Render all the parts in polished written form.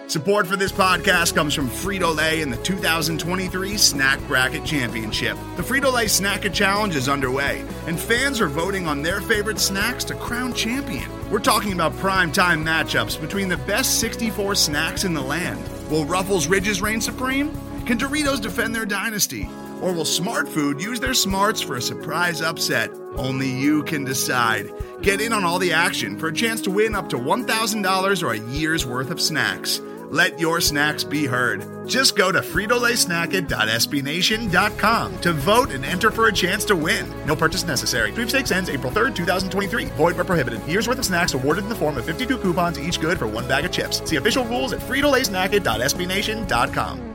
Support for this podcast comes from Frito-Lay and the 2023 Snack Bracket Championship. The Frito-Lay Snack Challenge is underway, and fans are voting on their favorite snacks to crown champion. We're talking about prime-time matchups between the best 64 snacks in the land. Will Ruffles Ridges reign supreme? Can Doritos defend their dynasty? Or will Smart Food use their smarts for a surprise upset? Only you can decide. Get in on all the action for a chance to win up to $1,000 or a year's worth of snacks. Let your snacks be heard. Just go to fritolaysnacket.sbnation.com to vote and enter for a chance to win. No purchase necessary. Sweepstakes ends April 3rd, 2023. Void where prohibited. Year's worth of snacks awarded in the form of 52 coupons, each good for one bag of chips. See official rules at fritolaysnacket.sbnation.com.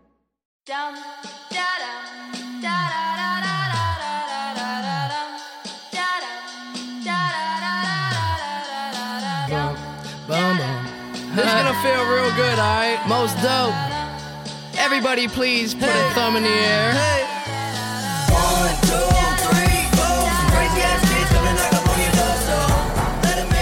This is gonna feel real good, alright? Most dope. Everybody please put a thumb in the air. 1, 2, 3, 4. Some crazy ass kids coming knock up on your door, so let 'em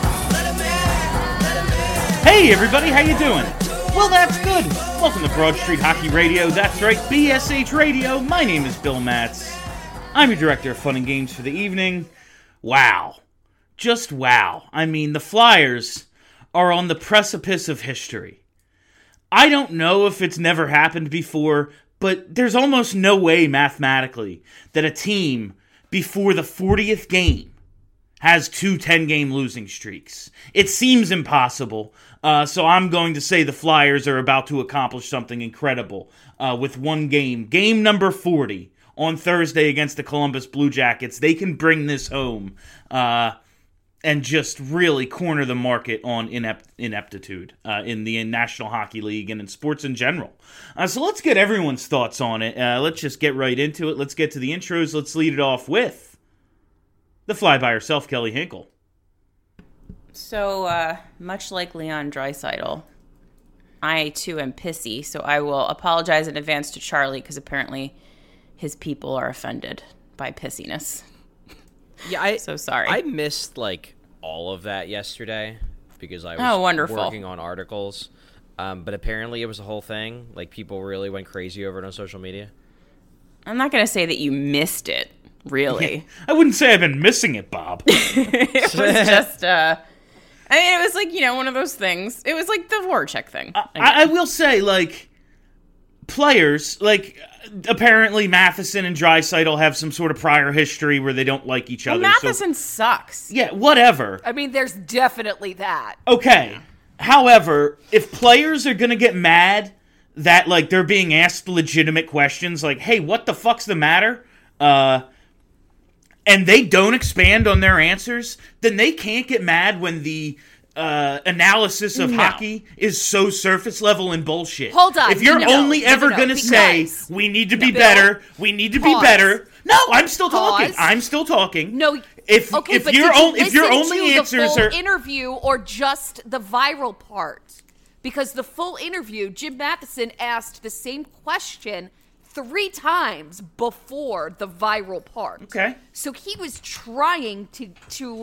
in. Hey everybody, how you doing? Well, that's good. Welcome to Broad Street Hockey Radio. That's right, BSH Radio. My name is Bill Matz. I'm your director of fun and games for the evening. Wow. Just wow. I mean, the Flyers are on the precipice of history. I don't know if it's never happened before, but there's almost no way mathematically that a team before the 40th game has two 10-game losing streaks. It seems impossible, so I'm going to say the Flyers are about to accomplish something incredible with one game. Game number 40 on Thursday against the Columbus Blue Jackets. They can bring this home and just really corner the market on ineptitude in the National Hockey League and in sports in general. So let's get everyone's thoughts on it. Let's just get right into it. Let's get to the intros. Let's lead it off with the fly by herself, Kelly Hinkle. So, much like Leon Draisaitl, I too am pissy, so I will apologize in advance to Charlie because apparently his people are offended by pissiness. Yeah, so sorry. I missed all of that yesterday because I was working on articles. But apparently it was a whole thing. People really went crazy over it on social media. I'm not going to say that you missed it, really. Yeah, I wouldn't say I've been missing it, Bob. It was just, it was one of those things. It was like the Voracek thing. I will say, players, apparently Matheson and Draisaitl have some sort of prior history where they don't like each other. Matheson sucks. Yeah, whatever. I mean, there's definitely that. Okay. However, if players are going to get mad that, they're being asked legitimate questions, hey, what the fuck's the matter? And they don't expand on their answers, then they can't get mad when the analysis of hockey is so surface level and bullshit. Hold on. If you're only ever going to say, we need to be better, we need to be better. No, I'm still talking. I'm still talking. No. If your only answers are are interview or just the viral part, because the full interview, Jim Matheson asked the same question 3 times before the viral part. Okay. So he was trying to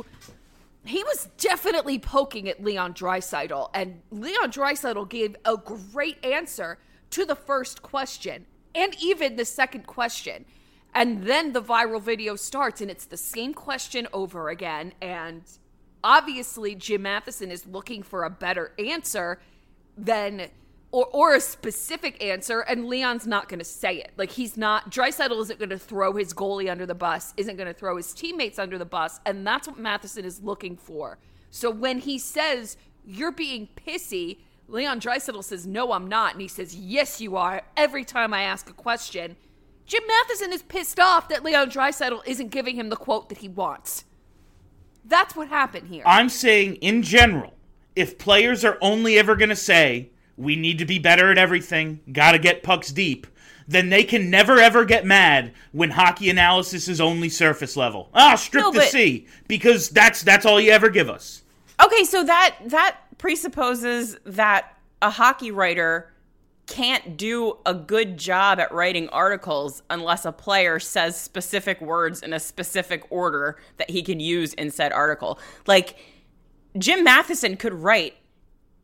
he was definitely poking at Leon Draisaitl, and Leon Draisaitl gave a great answer to the first question and even the second question. And then the viral video starts, and it's the same question over again. And obviously, Jim Matheson is looking for a better answer than, or a specific answer, and Leon's not going to say it. Draisaitl isn't going to throw his goalie under the bus, isn't going to throw his teammates under the bus, and that's what Matheson is looking for. So when he says, you're being pissy, Leon Draisaitl says, no, I'm not. And he says, yes, you are, every time I ask a question. Jim Matheson is pissed off that Leon Draisaitl isn't giving him the quote that he wants. That's what happened here. I'm saying, in general, if players are only ever going to say, we need to be better at everything, gotta get pucks deep, then they can never ever get mad when hockey analysis is only surface level. Strip the C, because that's all you ever give us. Okay, so that presupposes that a hockey writer can't do a good job at writing articles unless a player says specific words in a specific order that he can use in said article. Jim Matheson could write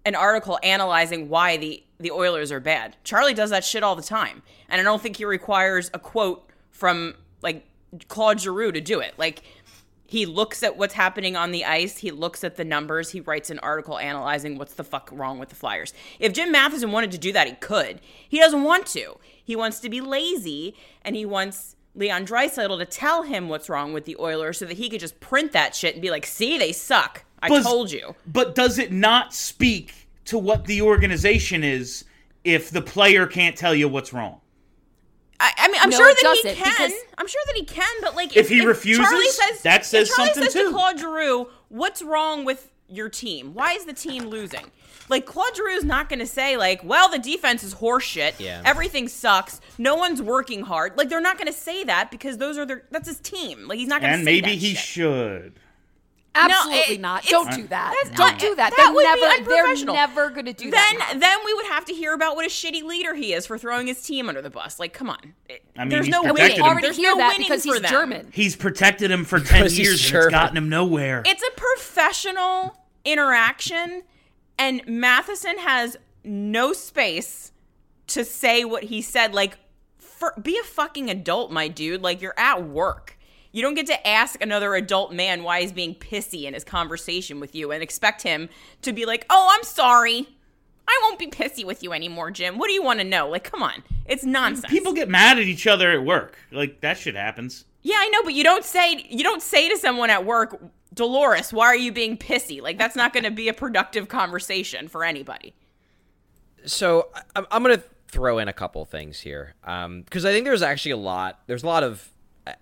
an article analyzing why the Oilers are bad. Charlie does that shit all the time. And I don't think he requires a quote from, like, Claude Giroux to do it. Like, he looks at what's happening on the ice. He looks at the numbers. He writes an article analyzing what's the fuck wrong with the Flyers. If Jim Matheson wanted to do that, he could. He doesn't want to. He wants to be lazy, and he wants Leon Draisaitl to tell him what's wrong with the Oilers so that he could just print that shit and be like, see, they suck. I told you. But does it not speak to what the organization is if the player can't tell you what's wrong? I mean, I'm sure that he can. I'm sure that he can, but like, if he refuses, Charlie says, that says if Charlie something says too. To Claude Giroux, what's wrong with your team? Why is the team losing? Like, Claude Giroux's not going to say, like, well, the defense is horseshit. Yeah. Everything sucks. No one's working hard. Like, they're not going to say that because that's his team. Like, he's not going to say that. And maybe he should. Absolutely not. Don't do that. Don't do that. They're never going to do that. Then we would have to hear about what a shitty leader he is for throwing his team under the bus. Like, come on. I mean, there's he's no protected winning. him. There's hear no that winning because for he's them. German. He's protected him for 10 Because he's years and German. it's gotten him nowhere. It's a professional interaction, and Matheson has no space to say what he said. Like, be a fucking adult, my dude. Like, you're at work. You don't get to ask another adult man why he's being pissy in his conversation with you and expect him to be like, oh, I'm sorry. I won't be pissy with you anymore, Jim. What do you want to know? Like, come on. It's nonsense. People get mad at each other at work. Like, that shit happens. Yeah, I know, but you don't say to someone at work, Dolores, why are you being pissy? Like, that's not going to be a productive conversation for anybody. So I'm going to throw in a couple things here because I think there's actually there's a lot of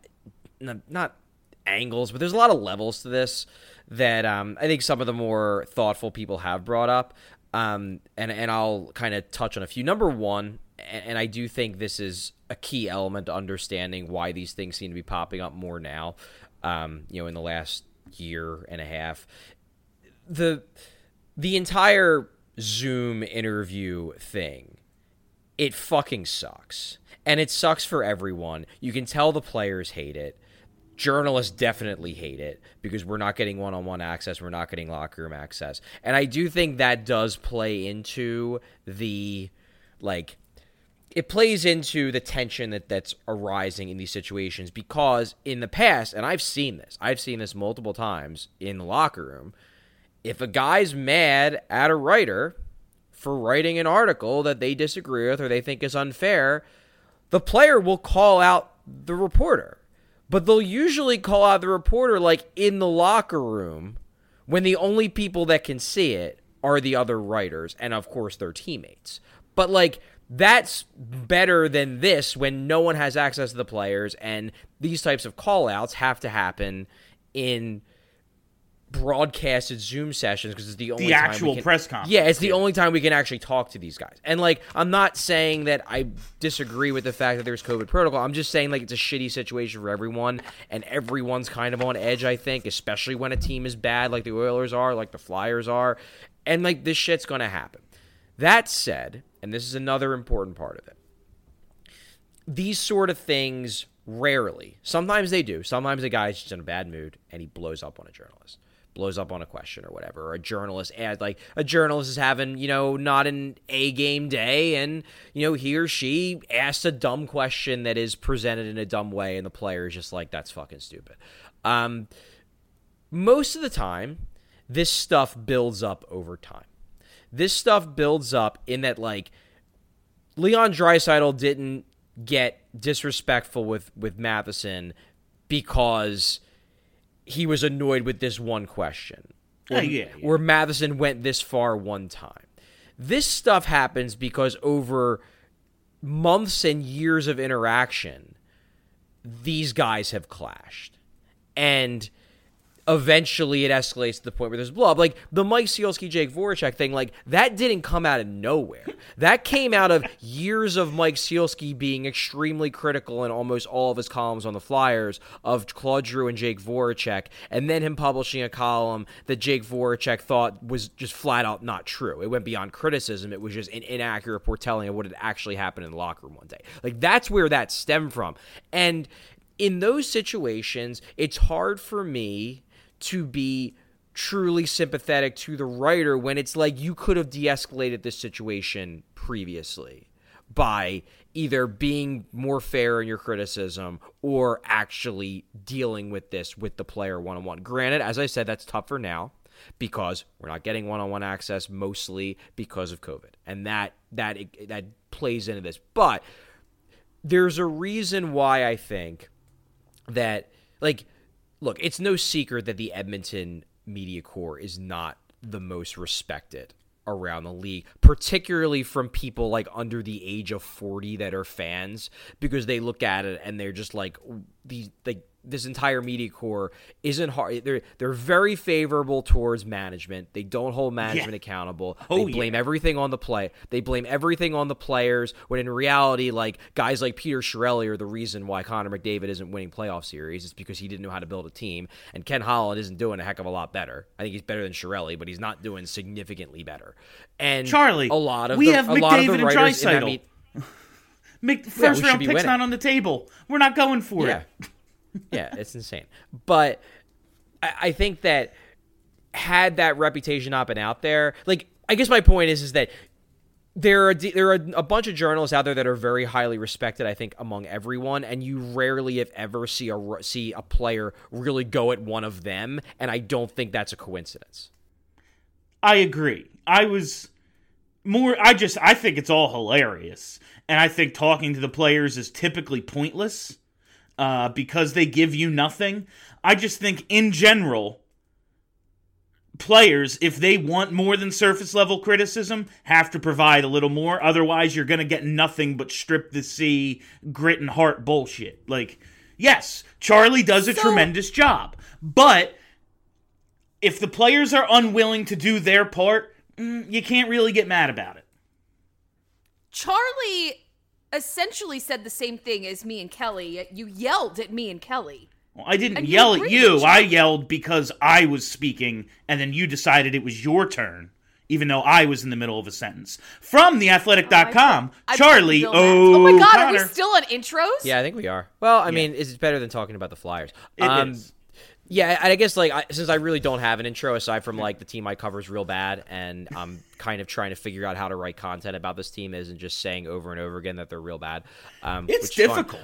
not angles, but there's a lot of levels to this that I think some of the more thoughtful people have brought up, and I'll kind of touch on a few. Number one, and I do think this is a key element to understanding why these things seem to be popping up more now, in the last year and a half. The entire Zoom interview thing, it fucking sucks. And it sucks for everyone. You can tell the players hate it. Journalists definitely hate it because we're not getting one-on-one access. We're not getting locker room access. And I do think that does play into it plays into the tension that's arising in these situations because in the past, and I've seen this multiple times in the locker room, if a guy's mad at a writer for writing an article that they disagree with or they think is unfair, the player will call out the reporter. But they'll usually call out the reporter like in the locker room when the only people that can see it are the other writers and, of course, their teammates. But, like, that's better than this when no one has access to the players and these types of call-outs have to happen in broadcasted Zoom sessions because it's the only time actual press conference. Yeah, it's the only time we can actually talk to these guys. And like, I'm not saying that I disagree with the fact that there's COVID protocol. I'm just saying like it's a shitty situation for everyone, and everyone's kind of on edge. I think, especially when a team is bad, like the Oilers are, like the Flyers are, and like this shit's gonna happen. That said, and this is another important part of it, these sort of things rarely. Sometimes they do. Sometimes a guy's just in a bad mood and he blows up on a journalist. Blows up on a question or whatever, or a journalist is having, not an A-game day, and, he or she asks a dumb question that is presented in a dumb way, and the player is just like, that's fucking stupid. Most of the time, this stuff builds up over time. This stuff builds up in that, like, Leon Draisaitl didn't get disrespectful with Matheson because he was annoyed with this one question. Where Matheson went this far one time. This stuff happens because over months and years of interaction, these guys have clashed. And eventually it escalates to the point where there's blow up. Like, the Mike Sealski, Jake Voracek thing, like, that didn't come out of nowhere. That came out of years of Mike Sealski being extremely critical in almost all of his columns on the Flyers of Claude Giroux and Jake Voracek, and then him publishing a column that Jake Voracek thought was just flat out not true. It went beyond criticism. It was just an inaccurate foretelling of what had actually happened in the locker room one day. Like, that's where that stemmed from. And in those situations, it's hard for me to be truly sympathetic to the writer when it's like you could have de-escalated this situation previously by either being more fair in your criticism or actually dealing with this with the player one-on-one. Granted, as I said, that's tougher now because we're not getting one-on-one access mostly because of COVID. And that plays into this. But there's a reason why I think that, like, look, it's no secret that the Edmonton media corps is not the most respected around the league, particularly from people like under the age of 40 that are fans, because they look at it and they're just like, this entire media corps isn't hard. They're very favorable towards management. They don't hold management accountable. They blame everything on the play. They blame everything on the players, when in reality, like, guys like Peter Chiarelli are the reason why Connor McDavid isn't winning playoff series. It's because he didn't know how to build a team, and Ken Holland isn't doing a heck of a lot better. I think he's better than Chiarelli, but he's not doing significantly better. And Charlie, we have McDavid and Draisaitl. First round pick's not on the table. We're not going for it. Yeah, it's insane. But I think that had that reputation not been out there, like, I guess my point is that there are a bunch of journalists out there that are very highly respected, I think, among everyone, and you rarely, if ever, see a player really go at one of them, and I don't think that's a coincidence. I agree. I think it's all hilarious, and I think talking to the players is typically pointless. Because they give you nothing. I just think, in general, players, if they want more than surface-level criticism, have to provide a little more. Otherwise, you're going to get nothing but strip-the-sea, grit-and-heart bullshit. Like, yes, Charlie does a tremendous job. But if the players are unwilling to do their part, you can't really get mad about it. Charlie essentially said the same thing as me and Kelly. You yelled at me and Kelly. Well, I didn't yell at you. I yelled because I was speaking, and then you decided it was your turn, even though I was in the middle of a sentence. From theathletic.com, Charlie Oh my God, Connor. are we still on intros? Yeah, I think we are. Well, I mean, it's better than talking about the Flyers. It is. Yeah, I guess, like, since I really don't have an intro, aside from, like, the team I cover is real bad, and I'm kind of trying to figure out how to write content about this team isn't just saying over and over again that they're real bad. It's difficult.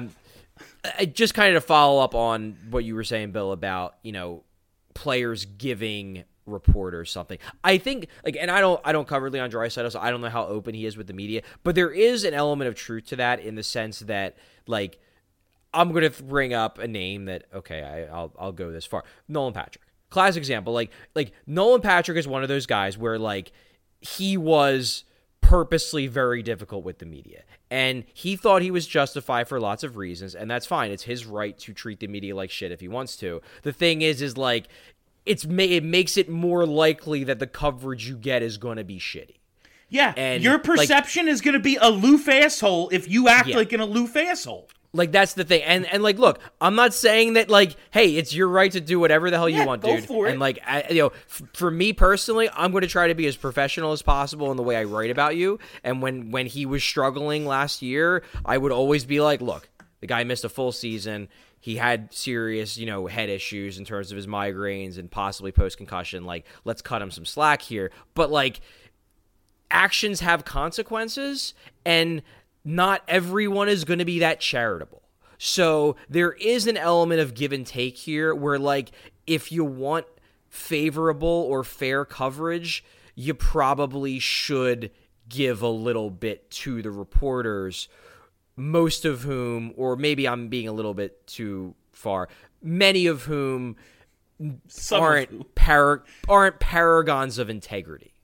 Just kind of to follow up on what you were saying, Bill, about, you know, players giving reporters something. I think, like, and I don't cover Leon Draisaitl, so I don't know how open he is with the media, but there is an element of truth to that in the sense that, like, I'm going to bring up a name that, okay, I'll go this far. Nolan Patrick. Classic example. Like Nolan Patrick is one of those guys where, like, he was purposely very difficult with the media. And he thought he was justified for lots of reasons, and that's fine. It's his right to treat the media like shit if he wants to. The thing is like, it makes it more likely that the coverage you get is going to be shitty. Yeah, and your perception is going to be aloof asshole if you act like an aloof asshole. Like, that's the thing. And like, look, I'm not saying that, like, hey, it's your right to do whatever the hell you want, dude. For it. And, like, for me personally, I'm going to try to be as professional as possible in the way I write about you. And when he was struggling last year, I would always be like, look, the guy missed a full season. He had serious, head issues in terms of his migraines and possibly post-concussion. Like, let's cut him some slack here. But, like, actions have consequences, and not everyone is going to be that charitable. So there is an element of give and take here where, like, if you want favorable or fair coverage, you probably should give a little bit to the reporters, most of whom, or maybe I'm being a little bit too far, many of whom aren't paragons of integrity.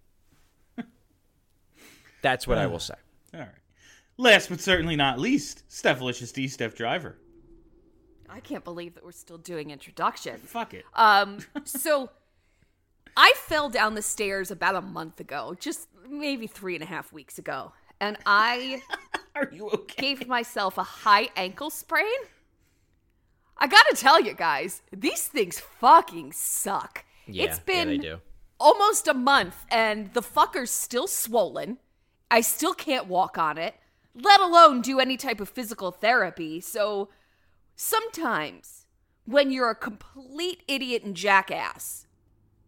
That's what I will say. All right. Last but certainly not least, Stephalicious D, Steph Driver. I can't believe that we're still doing introductions. Fuck it. So I fell down the stairs about a month ago, just maybe 3.5 weeks ago, and I Are you okay? gave myself a high ankle sprain. I gotta tell you guys, these things fucking suck. Yeah, it's been they do. almost a month, and the fucker's still swollen. I still can't walk on it, let alone do any type of physical therapy. So sometimes when you're a complete idiot and jackass,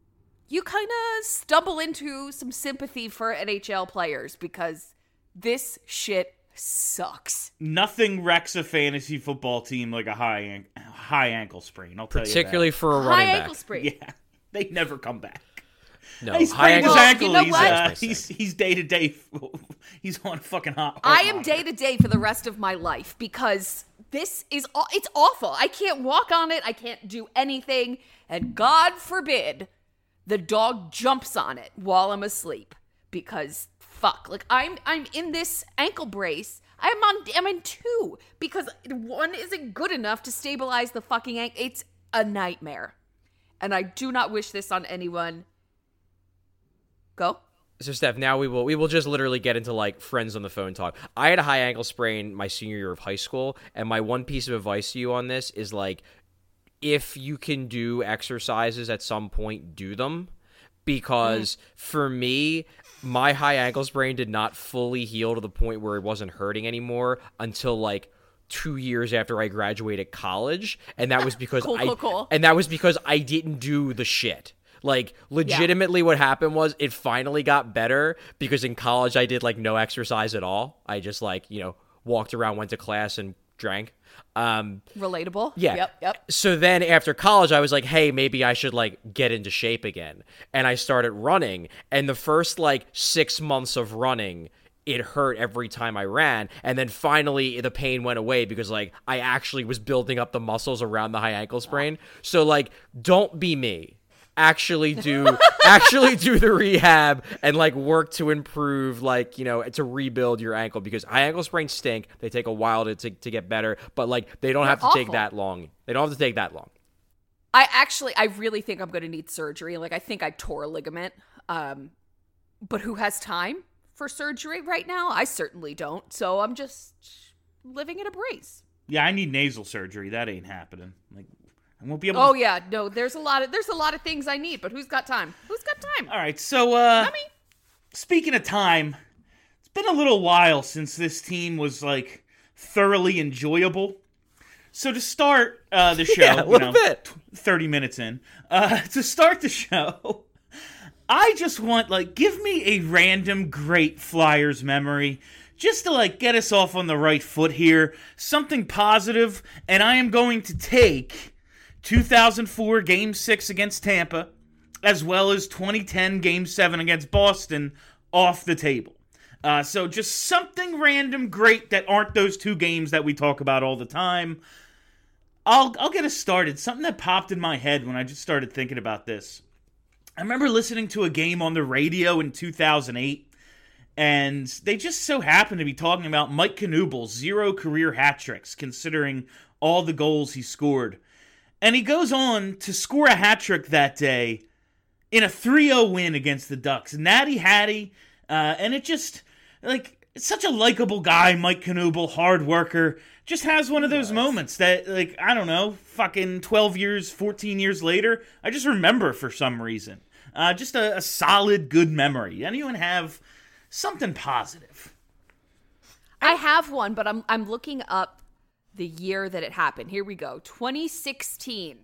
you kind of stumble into some sympathy for NHL players because this shit sucks. Nothing wrecks a fantasy football team like a high ankle sprain. I'll tell you that. Particularly for a High running ankle back. sprain. Yeah, they never come back. No, He high sprained his ankle. ankle. Well, you know what? He's day to day. He's on fucking hot. I am day to day for the rest of my life because this is it's awful. I can't walk on it. I can't do anything. And God forbid the dog jumps on it while I'm asleep because fuck. Like I'm in this ankle brace. I'm in 2 because 1 isn't good enough to stabilize the fucking ankle. It's a nightmare. And I do not wish this on anyone. Go. So Steph, now we will just literally get into like friends on the phone talk. I had a high ankle sprain my senior year of high school, and my one piece of advice to you on this is like, if you can do exercises at some point, do them. Because for me, my high ankle sprain did not fully heal to the point where it wasn't hurting anymore until like 2 years after I graduated college, and that was because Cool. and that was because I didn't do the shit. Like, legitimately what happened was it finally got better because in college I did, like, no exercise at all. I just, like, walked around, went to class, and drank. Relatable. Yeah. Yep. So then after college, I was like, hey, maybe I should, like, get into shape again. And I started running. And the first, like, 6 months of running, it hurt every time I ran. And then finally the pain went away because, like, I actually was building up the muscles around the high ankle sprain. So, like, don't be me. Actually do the rehab and like work to improve, like, to rebuild your ankle, because high ankle sprains stink. They take a while to get better, but like they don't have to take that long. They don't have to take that long. I really think I'm going to need surgery. Like, I think I tore a ligament. But who has time for surgery right now? I certainly don't. So I'm just living in a brace. Yeah, I need nasal surgery. That ain't happening. Like, I won't be able. Oh yeah, no. There's a lot of things I need, but who's got time? All right, so speaking of time, it's been a little while since this team was like thoroughly enjoyable. So to start the show, yeah, a little bit, 30 minutes in, to start the show, I just want, like, give me a random great Flyers memory, just to, like, get us off on the right foot here, something positive, and I am going to take 2004 Game 6 against Tampa, as well as 2010 Game 7 against Boston, off the table. So just something random great that aren't those 2 games that we talk about all the time. I'll get us started. Something that popped in my head when I just started thinking about this. I remember listening to a game on the radio in 2008, and they just so happened to be talking about Mike Knuebel's 0 career hat tricks, considering all the goals he scored. And he goes on to score a hat trick that day in a 3-0 win against the Ducks. Natty Hattie, and it just, like, it's such a likable guy, Mike Knuebel, hard worker. Just has one of those moments that, like, I don't know, fucking 12 years, 14 years later, I just remember for some reason. Just a solid, good memory. Anyone have something positive? I have one, but I'm looking up the year that it happened. Here we go. 2016.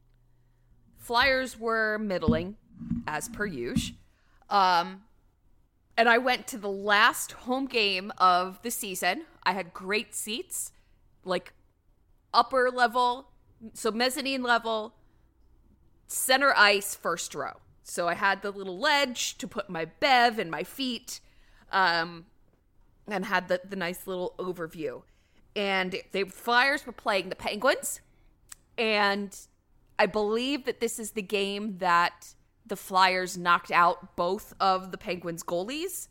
Flyers were middling, as per usual. And I went to the last home game of the season. I had great seats, like upper level, so mezzanine level, center ice, first row. So I had the little ledge to put my bev and my feet, and had the nice little overview. And the Flyers were playing the Penguins, and I believe that this is the game that the Flyers knocked out both of the Penguins' goalies.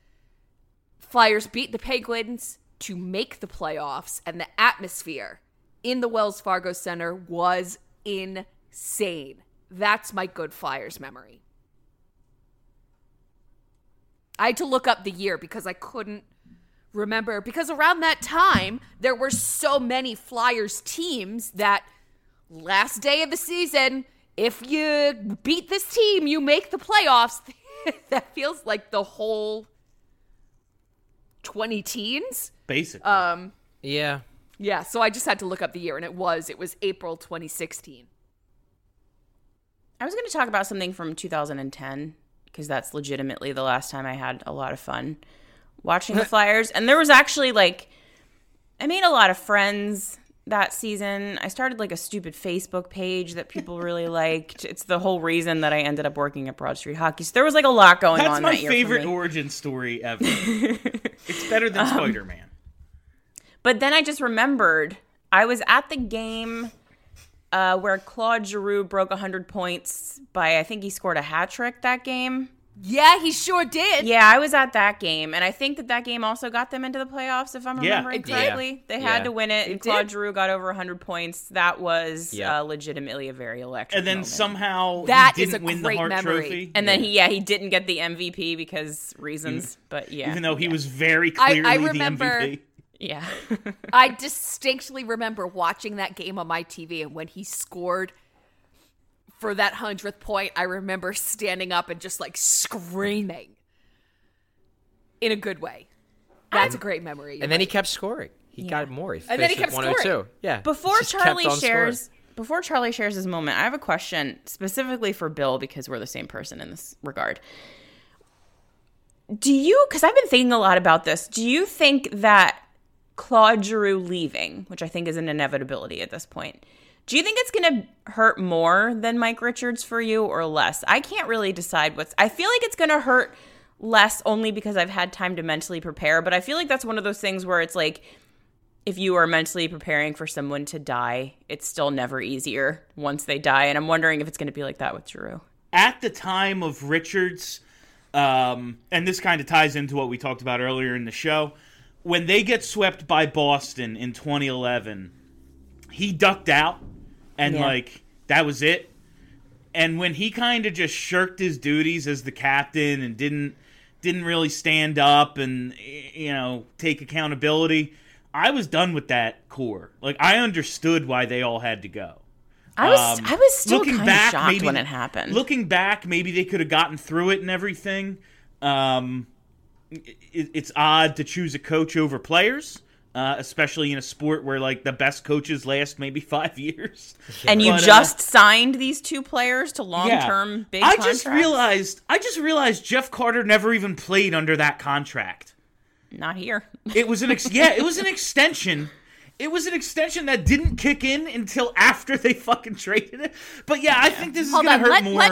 Flyers beat the Penguins to make the playoffs, and the atmosphere in the Wells Fargo Center was insane. That's my good Flyers memory. I had to look up the year because I couldn't remember, because around that time there were so many Flyers teams that last day of the season, if you beat this team, you make the playoffs. That feels like the whole 20 teens. Basically. Yeah. So I just had to look up the year, and it was April 2016. I was going to talk about something from 2010 because that's legitimately the last time I had a lot of fun watching the Flyers. And there was actually I made a lot of friends that season. I started a stupid Facebook page that people really liked. It's the whole reason that I ended up working at Broad Street Hockey. So there was a lot going on that year. That's my favorite origin story ever. It's better than Spider-Man. But then I just remembered I was at the game where Claude Giroux broke 100 points by, I think he scored a hat trick that game. Yeah, he sure did. Yeah, I was at that game, and I think that game also got them into the playoffs, if I'm remembering correctly. They had to win it, and Claude Giroux got over 100 points. That was legitimately a very electric And then moment. somehow That he is didn't a win the great Hart memory. Trophy. And then he didn't get the MVP because reasons, but yeah. Even though he was very clearly I the remember- MVP. Yeah. I distinctly remember watching that game on my TV, and when he scored for that 100th point, I remember standing up and just screaming in a good way. That's a great memory. And then he kept scoring. He got more. And then he kept finished with 102. Yeah. Before Just kept Charlie on scoring. shares his moment, I have a question specifically for Bill because we're the same person in this regard. Because I've been thinking a lot about this, do you think that Claude Giroux leaving, which I think is an inevitability at this point, do you think it's going to hurt more than Mike Richards for you or less? I can't really decide I feel like it's going to hurt less only because I've had time to mentally prepare, but I feel like that's one of those things where it's if you are mentally preparing for someone to die, it's still never easier once they die, and I'm wondering if it's going to be like that with Giroux. At the time of Richards, and this kind of ties into what we talked about earlier in the show, when they get swept by Boston in 2011, he ducked out, and that was it. And when he kind of just shirked his duties as the captain and didn't really stand up and take accountability, I was done with that core. I understood why they all had to go. I was still kind of shocked maybe, when it happened. Looking back, maybe they could have gotten through it and everything. It's odd to choose a coach over players, especially in a sport where the best coaches last maybe 5 years. And you just signed these two players to long-term big contracts? I just realized Jeff Carter never even played under that contract. Not here. It was an it was an extension. It was an extension that didn't kick in until after they fucking traded it. But yeah, I think this is going to hurt more.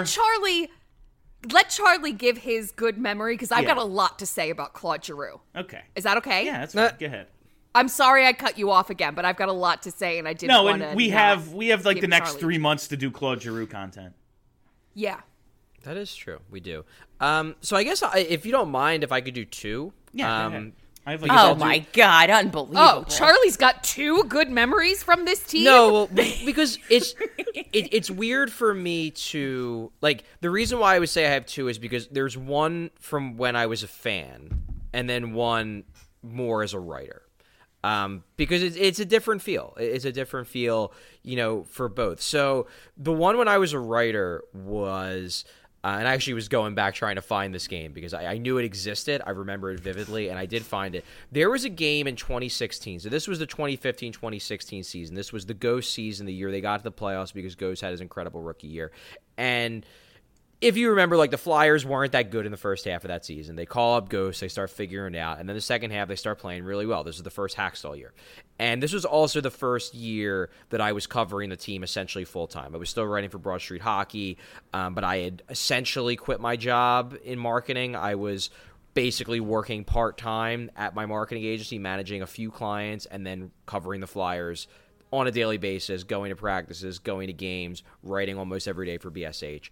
Let Charlie give his good memory, because I've got a lot to say about Claude Giroux. Okay. Is that okay? Yeah, that's fine. Go ahead. I'm sorry I cut you off again, but I've got a lot to say, and I didn't want to. No, and we have the next Charlie 3 months to do Claude Giroux content. Yeah. That is true. We do. So I guess if you don't mind, if I could do two. Yeah. Go ahead. I have Oh my God, unbelievable. Oh, Charlie's got two good memories from this team? No, well, because it's weird for me to, the reason why I would say I have two is because there's one from when I was a fan and then one more as a writer. Because it's a different feel. It's a different feel, for both. So the one when I was a writer was... and I actually was going back trying to find this game because I knew it existed. I remember it vividly, and I did find it. There was a game in 2016. So this was the 2015-2016 season. This was the Ghost season, the year they got to the playoffs because Ghost had his incredible rookie year. And if you remember, the Flyers weren't that good in the first half of that season. They call up Ghost, they start figuring it out, and then the second half, they start playing really well. This is the first Hackstall year. And this was also the first year that I was covering the team essentially full-time. I was still writing for Broad Street Hockey, but I had essentially quit my job in marketing. I was basically working part-time at my marketing agency, managing a few clients, and then covering the Flyers on a daily basis, going to practices, going to games, writing almost every day for BSH.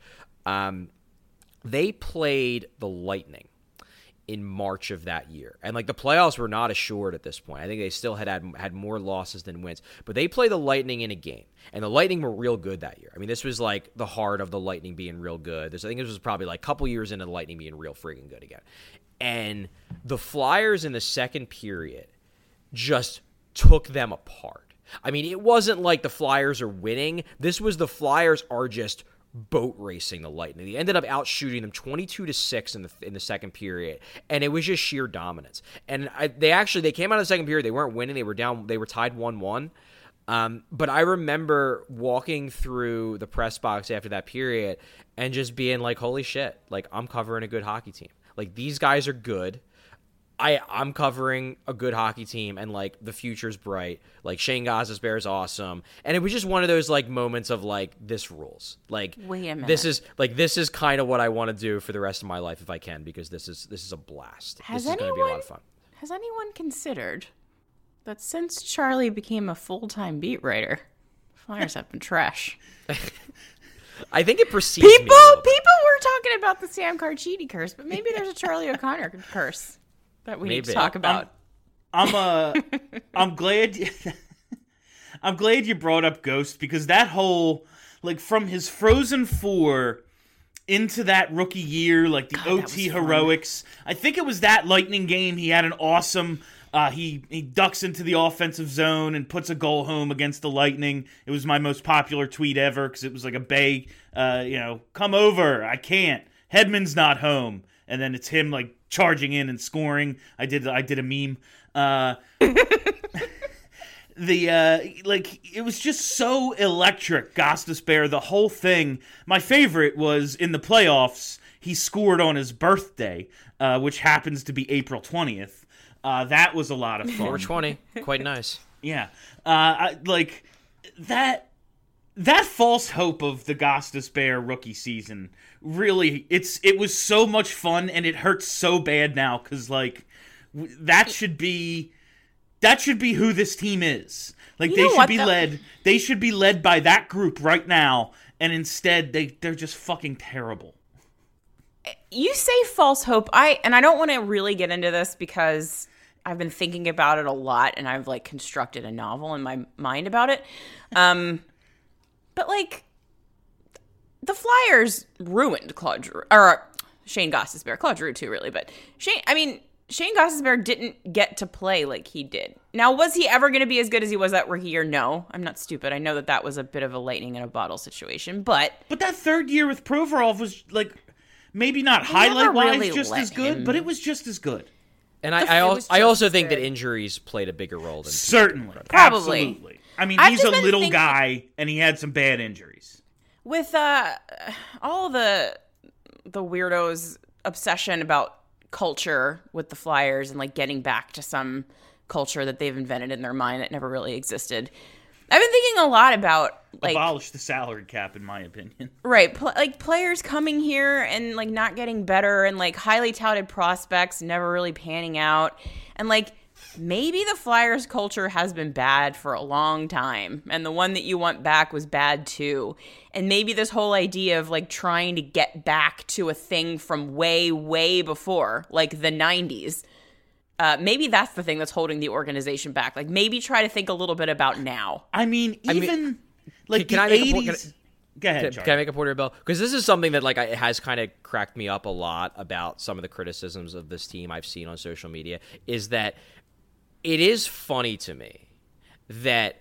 They played the Lightning in March of that year. And the playoffs were not assured at this point. I think they still had more losses than wins. But they played the Lightning in a game. And the Lightning were real good that year. I mean, this was the heart of the Lightning being real good. I think this was probably a couple years into the Lightning being real freaking good again. And the Flyers in the second period just took them apart. I mean, it wasn't like the Flyers are winning. This was the Flyers are just boat racing the Lightning. They ended up outshooting them 22-6 in the second period, and it was just sheer dominance. And they came out of the second period. They weren't winning. They were down. They were tied 1-1. But I remember walking through the press box after that period and just being like, holy shit, like I'm covering a good hockey team. Like these guys are good. I'm covering a good hockey team, and like the future's bright. Like Shane Gostisbehere is awesome, and it was just one of those like moments of like this rules. Like wait a minute, this is kind of what I want to do for the rest of my life if I can, because this is a blast. This is going to be a lot of fun. Has anyone considered that since Charlie became a full-time beat writer, Flyers have been trash? I think it precedes me a little bit. People were talking about the Sam Carchidi curse, but maybe there's a Charlie O'Connor curse that we need to talk about. I'm glad I'm glad you brought up Ghost, because that whole, like, from his Frozen 4 into that rookie year, like the OT heroics. I think it was that Lightning game. He had an awesome. He ducks into the offensive zone and puts a goal home against the Lightning. It was my most popular tweet ever because it was like a Bay, come over. I can't. Hedman's not home, and then it's him like charging in and scoring. I did a meme. It was just so electric. Gostisbehere, the whole thing. My favorite was in the playoffs. He scored on his birthday, which happens to be April 20th. That was a lot of fun. 420, quite nice. Yeah, that false hope of the Gostisbehere rookie season. Really, it was so much fun, and it hurts so bad now because that should be who this team is. Like they should be led by that group right now, and instead they're just fucking terrible. You say false hope. I don't want to really get into this because I've been thinking about it a lot, and I've like constructed a novel in my mind about it. But like the Flyers ruined Claude Giroux, or Shane Gostisbehere, Claude Giroux too, really. But Shane Gostisbehere didn't get to play like he did. Now, was he ever going to be as good as he was that rookie year? No, I'm not stupid. I know that was a bit of a lightning in a bottle situation, but that third year with Provorov was like maybe not highlight-wise really just as good, but it was just as good. And I also think that injuries played a bigger role than certainly, probably. Absolutely. I mean, he's a little guy, and he had some bad injuries. With all the weirdos' obsession about culture with the Flyers and like getting back to some culture that they've invented in their mind that never really existed, I've been thinking a lot about like abolish the salary cap, in my opinion. Right, players coming here and like not getting better, and like highly touted prospects never really panning out, and like maybe the Flyers culture has been bad for a long time, and the one that you want back was bad too. And maybe this whole idea of like trying to get back to a thing from way, way before, like the 90s, maybe that's the thing that's holding the organization back. Like maybe try to think a little bit about now. Can the I 80s... Go ahead, Can I make a point here, Bill? Because this is something that like it has kind of cracked me up a lot about some of the criticisms of this team I've seen on social media, is that it is funny to me that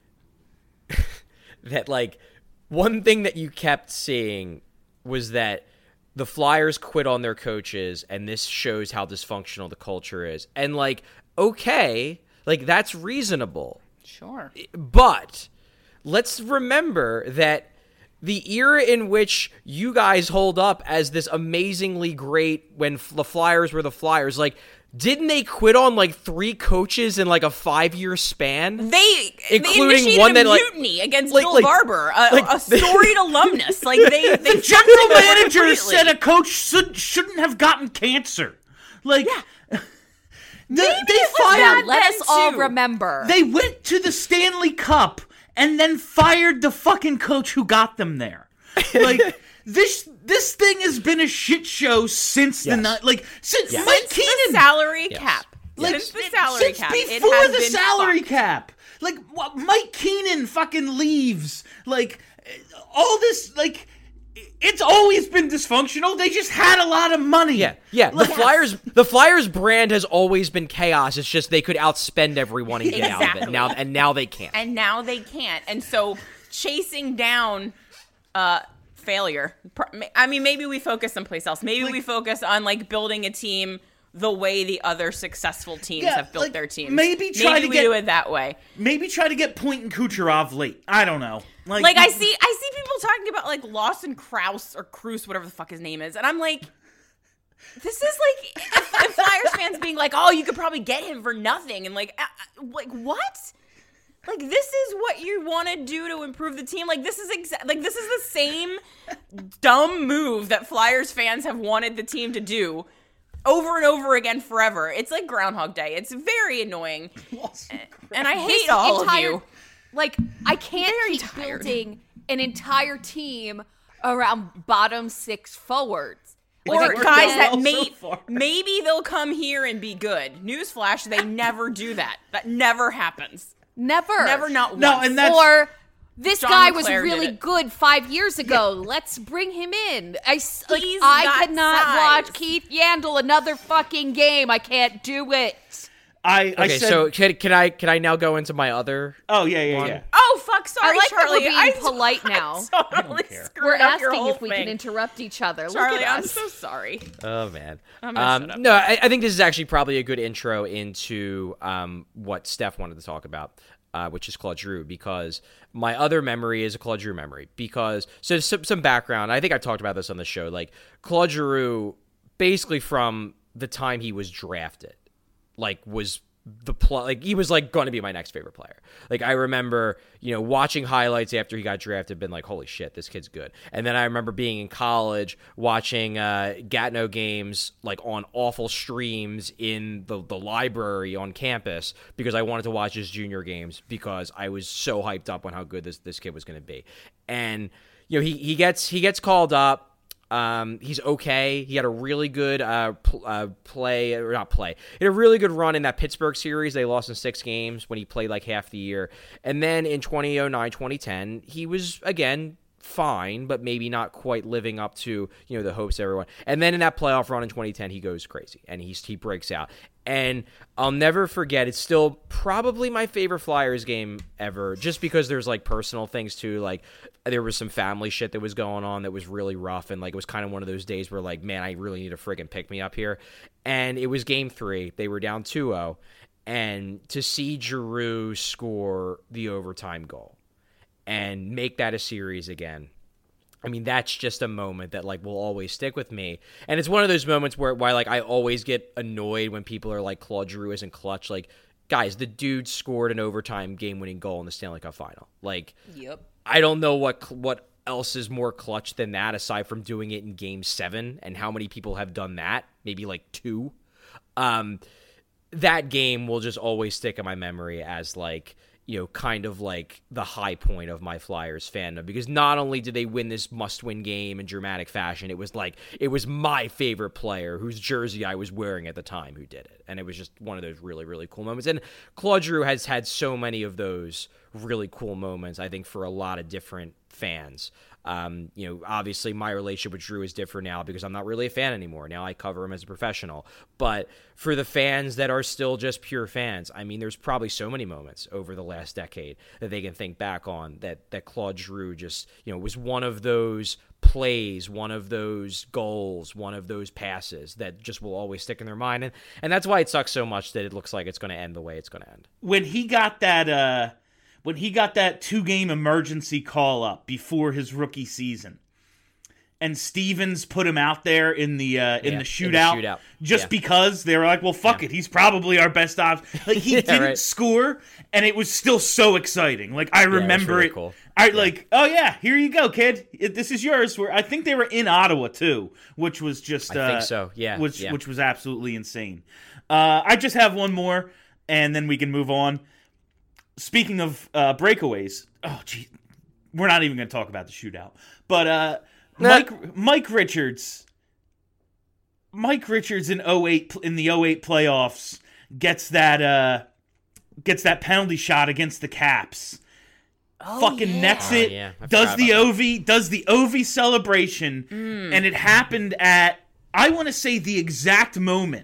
that like one thing that you kept seeing was that the Flyers quit on their coaches, and this shows how dysfunctional the culture is. And like, okay, like that's reasonable. Sure. But let's remember that the era in which you guys hold up as this amazingly great, when the Flyers were the Flyers, like, didn't they quit on like 3 coaches in like a 5-year span? They including one that mutiny against Bill Barber, a storied alumnus. Like they the general manager said a coach shouldn't have gotten cancer. Like, yeah. They fired. Let us all remember. They went to the Stanley Cup and then fired the fucking coach who got them there. Like. This thing has been a shit show since since Mike Keenan, the salary cap. Since the salary cap. Before the salary cap. Like Mike Keenan fucking leaves. Like all this, like it's always been dysfunctional. They just had a lot of money. Yeah. The Flyers brand has always been chaos. It's just they could outspend everyone and get out of it. Now they can't. And so chasing down failure. I mean, maybe we focus someplace else. Maybe we focus on like building a team the way the other successful teams have built their teams. Maybe we do it that way. Maybe try to get Point and Kucherov late. I don't know. Like I see people talking about like Lawson Krause or Cruz, whatever the fuck his name is, and I'm like, this is like if Flyers fans being like, oh, you could probably get him for nothing, and like what? Like, this is what you want to do to improve the team. Like, this is this is the same dumb move that Flyers fans have wanted the team to do over and over again forever. It's like Groundhog Day. It's very annoying. And I hate all of you. Like, I can't keep building an entire team around bottom six forwards. Or guys that maybe they'll come here and be good. Newsflash, they never do that. That never happens. Never, not once. No, and that's... Or this John guy was LeClaire really good 5 years ago. Let's bring him in. I got cannot size. watch Keith Yandle another fucking game. I can't do it. So can I now go into my other? Oh yeah. Oh fuck! Sorry, I like Charlie. that we're being polite now. I totally screwed We're up your asking whole if we thing. can interrupt each other. Charlie, Look at I'm us. so sorry. Oh man. I'm gonna shut up. No, I think this is actually probably a good intro into what Steph wanted to talk about. Which is Claude Giroux, because my other memory is a Claude Giroux memory. Because, so some background, I think I talked about this on the show, like, Claude Giroux, basically from the time he was drafted, like, was he was, like, going to be my next favorite player. Like, I remember, watching highlights after he got drafted, been like, holy shit, this kid's good. And then I remember being in college, watching Gatineau games, like, on awful streams in the library on campus, because I wanted to watch his junior games, because I was so hyped up on how good this kid was going to be. And, he gets called up. He's okay. He had a really good He had a really good run in that Pittsburgh series. They lost in 6 games when he played like half the year. And then in 2009, 2010, he was again fine, but maybe not quite living up to, the hopes of everyone. And then in that playoff run in 2010, he goes crazy and he breaks out. And I'll never forget, it's still probably my favorite Flyers game ever, just because there's like personal things too. Like, there was some family shit that was going on that was really rough, and like it was kind of one of those days where like, man, I really need a friggin' pick me up here. And it was game 3. They were down 2-0, and to see Giroux score the overtime goal and make that a series again, I mean, that's just a moment that like will always stick with me. And it's one of those moments where like I always get annoyed when people are like, Claude Giroux isn't clutch. Like, guys, the dude scored an overtime game-winning goal in the Stanley Cup final. Like, Yep. I don't know what else is more clutch than that, aside from doing it in Game 7, and how many people have done that? Maybe like 2. That game will just always stick in my memory as like, kind of like the high point of my Flyers fandom, because not only did they win this must-win game in dramatic fashion, it was my favorite player whose jersey I was wearing at the time who did it. And it was just one of those really, really cool moments. And Claude Giroux has had so many of those really cool moments, I think, for a lot of different fans. Obviously my relationship with Giroux is different now because I'm not really a fan anymore. Now I cover him as a professional. But for the fans that are still just pure fans, I mean, there's probably so many moments over the last decade that they can think back on that Claude Giroux just, was one of those plays, one of those goals, one of those passes that just will always stick in their mind. And that's why it sucks so much that it looks like it's going to end the way it's going to end. When he got that 2-game emergency call up before his rookie season, and Stevens put him out there in the shootout, just because they were like, well, fuck it, he's probably our best option. Like, he didn't score, and it was still so exciting. Like, I remember really it. Cool. Like, oh yeah, here you go, kid. This is yours. I think they were in Ottawa too, which was just I think so. Yeah, which was absolutely insane. I just have one more, and then we can move on. Speaking of breakaways, oh gee, we're not even going to talk about the shootout. But Mike Richards in the 08 playoffs gets that penalty shot against the Caps. Nets it. Does the Ovi celebration, and it happened at, I want to say the exact moment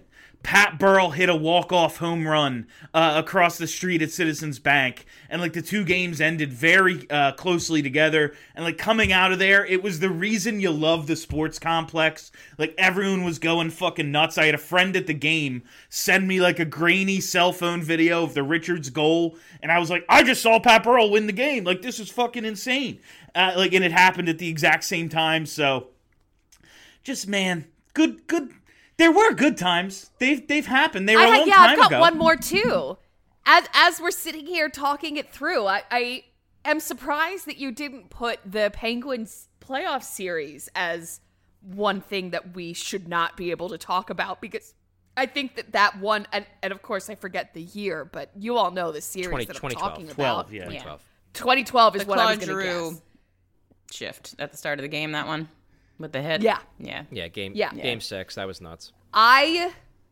Pat Burrell hit a walk-off home run across the street at Citizens Bank, and like the two games ended very closely together, and like coming out of there, it was the reason you love the sports complex. Like everyone was going fucking nuts. I had a friend at the game send me like a grainy cell phone video of the Richards goal, and I was like, I just saw Pat Burrell win the game. Like, this is fucking insane. And it happened at the exact same time. So just, man, good. There were good times. They've happened. They were a long time ago. I've got one more too. As we're sitting here talking it through, I am surprised that you didn't put the Penguins playoff series as one thing that we should not be able to talk about, because I think that one, and of course I forget the year, but you all know the series that I'm talking about. 2012, yeah. 2012 is The what I was Claude going to Giroux guess. shift at the start of the game, that one with the hit. Yeah. Yeah, game 6, that was nuts. I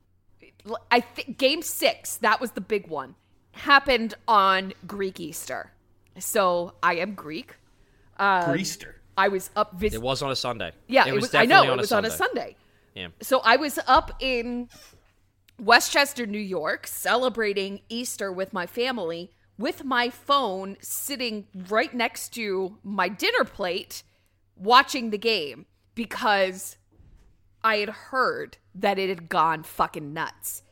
think Game 6, that was the big one, happened on Greek Easter. So I am Greek. Greaster. I was up It was on a Sunday. Yeah, it was I definitely know, on it was on a Sunday. Yeah. So I was up in Westchester, New York, celebrating Easter with my family, with my phone sitting right next to my dinner plate, watching the game, because I had heard that it had gone fucking nuts.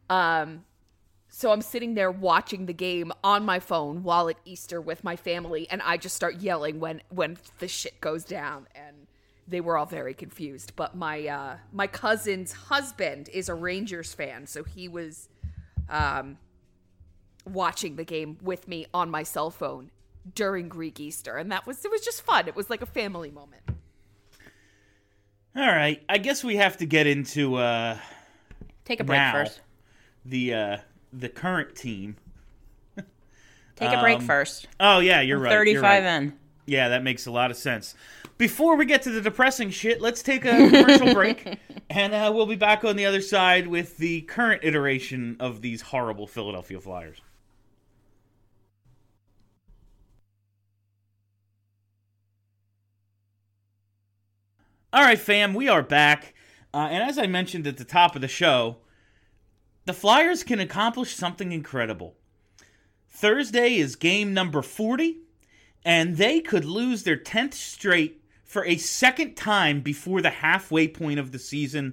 So I'm sitting there watching the game on my phone while at Easter with my family, and I just start yelling when the shit goes down, and they were all very confused. But my cousin's husband is a Rangers fan, so he was watching the game with me on my cell phone during Greek Easter, and it was just fun. It was like a family moment. All right, I guess we have to get into Take a break first. The current team. Take a break first. Oh yeah, you're right. 35 you're right. in. Yeah, that makes a lot of sense. Before we get to the depressing shit, let's take a commercial break, and we'll be back on the other side with the current iteration of these horrible Philadelphia Flyers. All right, fam, we are back. And as I mentioned at the top of the show, the Flyers can accomplish something incredible. Thursday is game number 40, and they could lose their 10th straight for a second time before the halfway point of the season.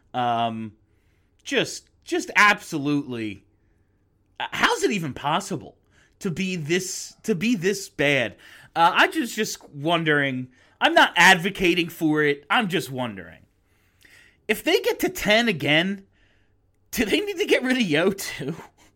Just absolutely. How's it even possible to be this bad? I just wondering. I'm not advocating for it. I'm just wondering. If they get to 10 again, do they need to get rid of Yo too?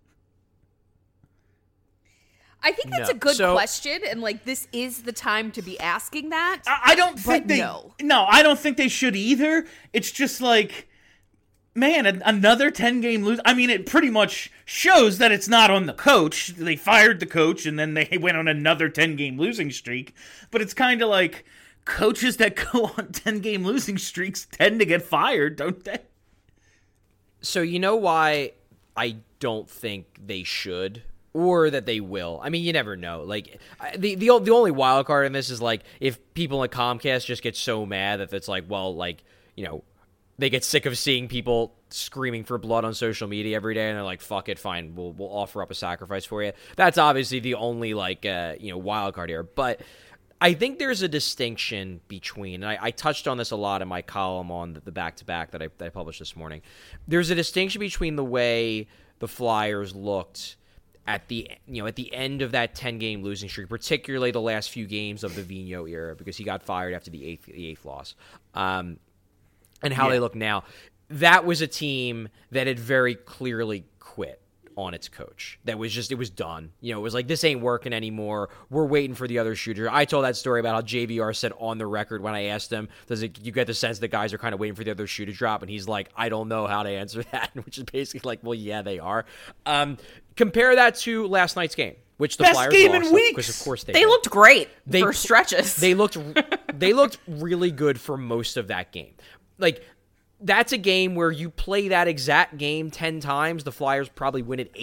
I think that's a good question, and like this is the time to be asking that. I don't think they. No, I don't think they should either. It's just like, man, another 10-game lose. I mean, it pretty much shows that it's not on the coach. They fired the coach, and then they went on another 10-game losing streak. But it's kind of like coaches that go on 10-game losing streaks tend to get fired, don't they? So you know why I don't think they should, or that they will? I mean, you never know. Like the only wild card in this is like if people at Comcast just get so mad that it's like, well, like, you know, they get sick of seeing people screaming for blood on social media every day, and they're like, fuck it, fine, we'll offer up a sacrifice for you. That's obviously the only like wild card here, but I think there's a distinction between, and I touched on this a lot in my column on the back-to-back that I published this morning. There's a distinction between the way the Flyers looked at the end of that 10-game losing streak, particularly the last few games of the Vigneault era, because he got fired after the eighth loss, and how they look now. That was a team that had very clearly quit on its coach. That was just, it was done. You know, it was like, this ain't working anymore. We're waiting for the other shooter. I told that story about how JVR said on the record when I asked him, you get the sense that guys are kind of waiting for the other shoe to drop? And he's like, I don't know how to answer that, which is basically like, well, yeah, they are. Compare that to last night's game, which the Flyers game lost, in weeks. because of course They looked great for stretches. They looked really good for most of that game. Like, that's a game where you play that exact game 10 times, the Flyers probably win it 8.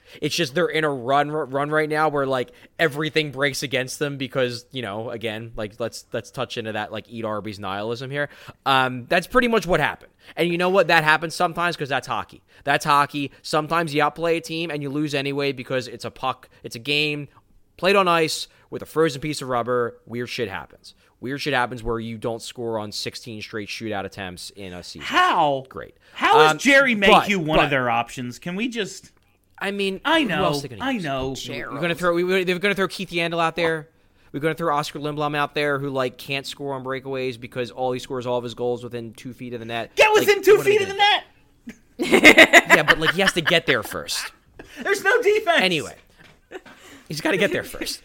It's just they're in a run right now where like everything breaks against them because, again, like let's touch into that like eat Arby's nihilism here. That's pretty much what happened. And you know what? That happens sometimes because that's hockey. That's hockey. Sometimes you outplay a team and you lose anyway because it's a puck. It's a game played on ice with a frozen piece of rubber. Weird shit happens. Weird shit happens where you don't score on 16 straight shootout attempts in a season. How? Great. How is Jerry Mayhew one of their options? Can we just... I mean, I who know. else are they gonna use? They're going to throw Keith Yandel out there. We're going to throw Oscar Lindblom out there who like can't score on breakaways because all he scores all of his goals within 2 feet of the net. Get within 2 feet of the net! Yeah, but like he has to get there first. There's no defense! Anyway, he's got to get there first.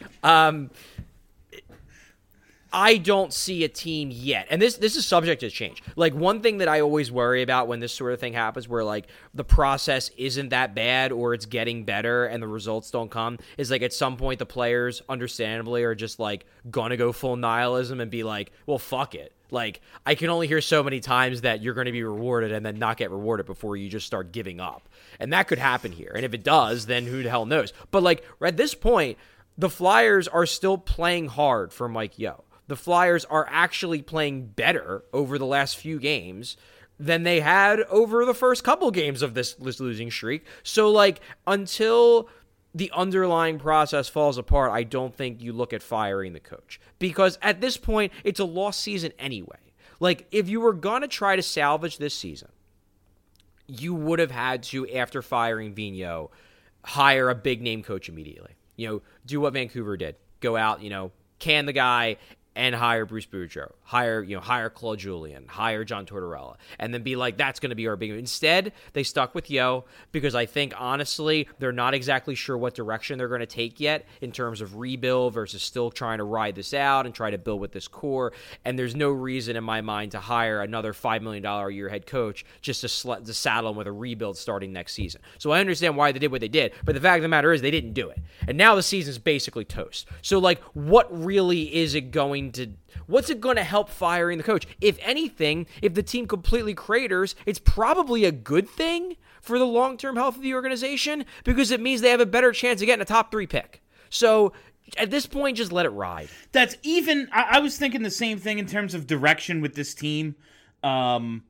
I don't see a team yet, and this is subject to change. Like, one thing that I always worry about when this sort of thing happens where, like, the process isn't that bad or it's getting better and the results don't come is, like, at some point the players, understandably, are just, like, gonna go full nihilism and be like, well, fuck it. Like, I can only hear so many times that you're going to be rewarded and then not get rewarded before you just start giving up. And that could happen here. And if it does, then who the hell knows? But, like, at this point, the Flyers are still playing hard for Mike Yeo. The Flyers are actually playing better over the last few games than they had over the first couple games of this losing streak. So, like, until the underlying process falls apart, I don't think you look at firing the coach. Because at this point, it's a lost season anyway. Like, if you were going to try to salvage this season, you would have had to, after firing Vigneault, hire a big-name coach immediately. Do what Vancouver did. Go out, can the guy and hire Bruce Boudreau, hire Claude Julien, hire John Tortorella, and then be like, that's going to be our big... Instead, they stuck with Yeo because I think, honestly, they're not exactly sure what direction they're going to take yet in terms of rebuild versus still trying to ride this out and try to build with this core, and there's no reason in my mind to hire another $5 million a year head coach just to saddle him with a rebuild starting next season. So I understand why they did what they did, but the fact of the matter is they didn't do it. And now the season's basically toast. So, like, what really is it what's it going to help firing the coach? If anything, if the team completely craters, it's probably a good thing for the long-term health of the organization because it means they have a better chance of getting a top 3 pick. So at this point, just let it ride. That's even... I was thinking the same thing in terms of direction with this team. Even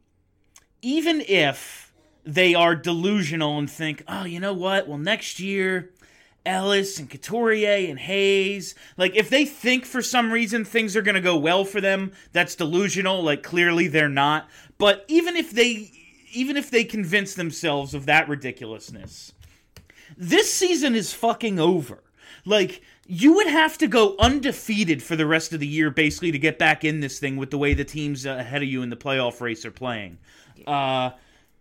if they are delusional and think, oh, you know what? Well, next year... Ellis and Couturier and Hayes. Like, if they think for some reason things are going to go well for them, that's delusional. Like, clearly they're not. But even if they convince themselves of that ridiculousness, this season is fucking over. Like, you would have to go undefeated for the rest of the year, basically, to get back in this thing with the way the teams ahead of you in the playoff race are playing. That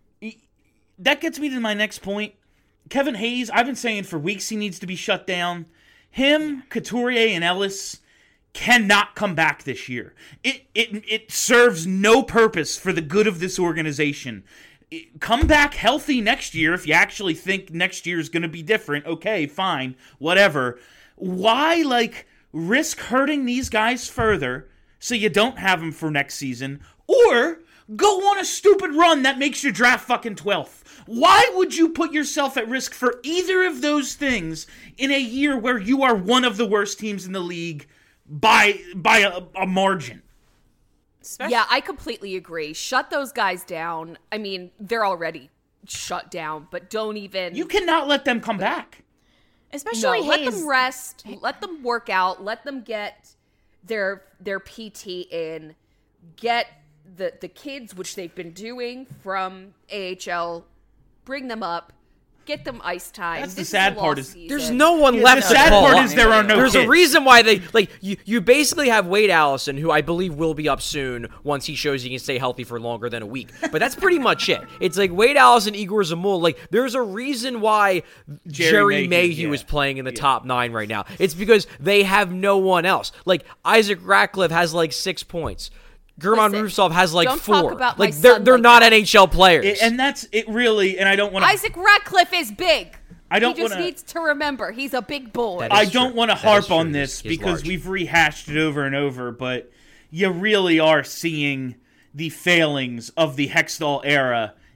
gets me to my next point. Kevin Hayes, I've been saying for weeks he needs to be shut down. Him, Couturier, and Ellis cannot come back this year. It serves no purpose for the good of this organization. Come back healthy next year if you actually think next year is going to be different. Okay, fine, whatever. Why, like, risk hurting these guys further so you don't have them for next season? Or go on a stupid run that makes you draft fucking 12th. Why would you put yourself at risk for either of those things in a year where you are one of the worst teams in the league by a margin? Yeah, I completely agree. Shut those guys down. I mean, they're already shut down, but don't even... You cannot let them come back. Especially Hayes. Let them rest. Let them work out. Let them get their PT in. Get the kids, which they've been doing from AHL, bring them up, get them ice time. That's the sad part is there's no one left to call up. The sad part is there are no There's kids. a reason why they, like, you basically have Wade Allison, who I believe will be up soon once he shows he can stay healthy for longer than a week. But that's pretty much it. It's like Wade Allison, Igor Zamul. Like, there's a reason why Jerry Mayhew is playing in the top 9 right now. It's because they have no one else. Like, Isaac Ratcliffe has, like, 6 points. German Rusov has like 4. Like they're not NHL players. And that's it really, and I don't want to... Isaac Ratcliffe is big. He just needs to remember he's a big boy. I don't want to harp on this because we've rehashed it over and over, but you really are seeing the failings of the Hextall era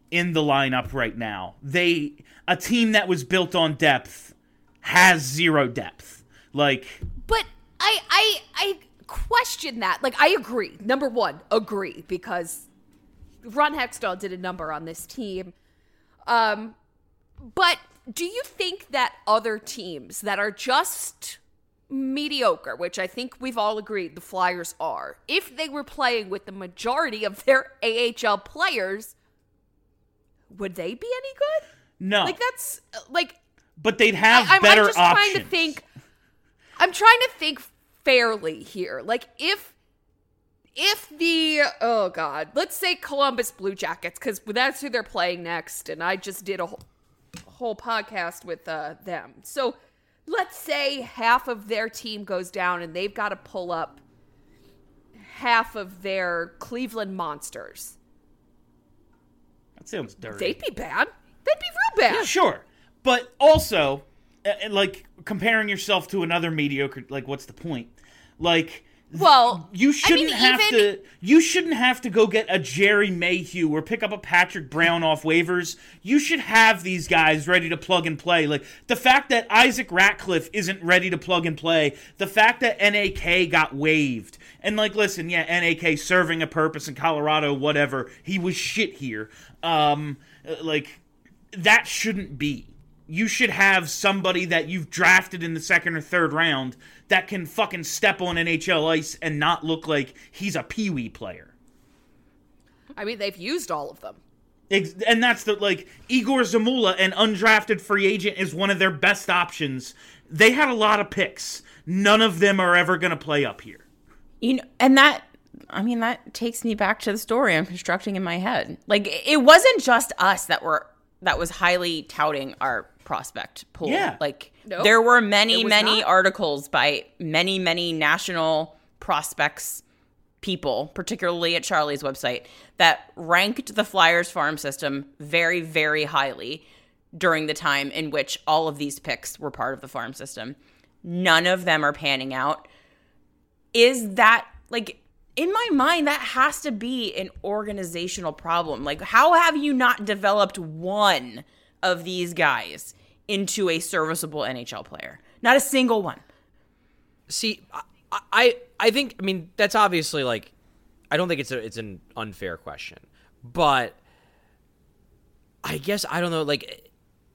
in the lineup right now. A team that was built on depth has zero depth. Like, But I question that. Like, I agree. Number one, agree, because Ron Hextall did a number on this team. But do you think that other teams that are just mediocre, which I think we've all agreed the Flyers are, if they were playing with the majority of their AHL players, would they be any good? no. Like, that's like, But they'd have I'm better just options. I'm trying to think fairly here. Like, if the, oh God, let's say Columbus Blue Jackets, because that's who they're playing next, and I just did a whole podcast with them. So let's say half of their team goes down and they've got to pull up half of their Cleveland Monsters. That sounds dirty. They'd be bad. They'd be real bad. Sure. But also, like, comparing yourself to another mediocre, like, what's the point? Like, Well, you shouldn't have even- to. You shouldn't have to go get a Jerry Mayhew or pick up a Patrick Brown off waivers. You should have these guys ready to plug and play. Like, the fact that Isaac Ratcliffe isn't ready to plug and play, the fact that NAK got waived, and like, listen, yeah, NAK serving a purpose in Colorado, whatever. He was shit here. Like, that shouldn't be. You should have somebody that you've drafted in the second or third round that can fucking step on NHL ice and not look like he's a peewee player. I mean, they've used all of them. And that's the, like, Igor Zamula, an undrafted free agent, is one of their best options. They had a lot of picks. None of them are ever going to play up here. You know, and that takes me back to the story I'm constructing in my head. Like, it wasn't just us that was highly touting our prospect pool. Yeah. Like, Nope. there were It many was not. articles by many national prospects people, particularly at Charlie's website, that ranked the Flyers farm system very, very highly during the time in which all of these picks were part of the farm system. None of them are panning out. Is that, like, in my mind, that has to be an organizational problem. Like, how have you not developed one of these guys into a serviceable NHL player? Not a single one. See, I think, I mean, that's obviously, like, I don't think it's an unfair question, but I guess, I don't know, like,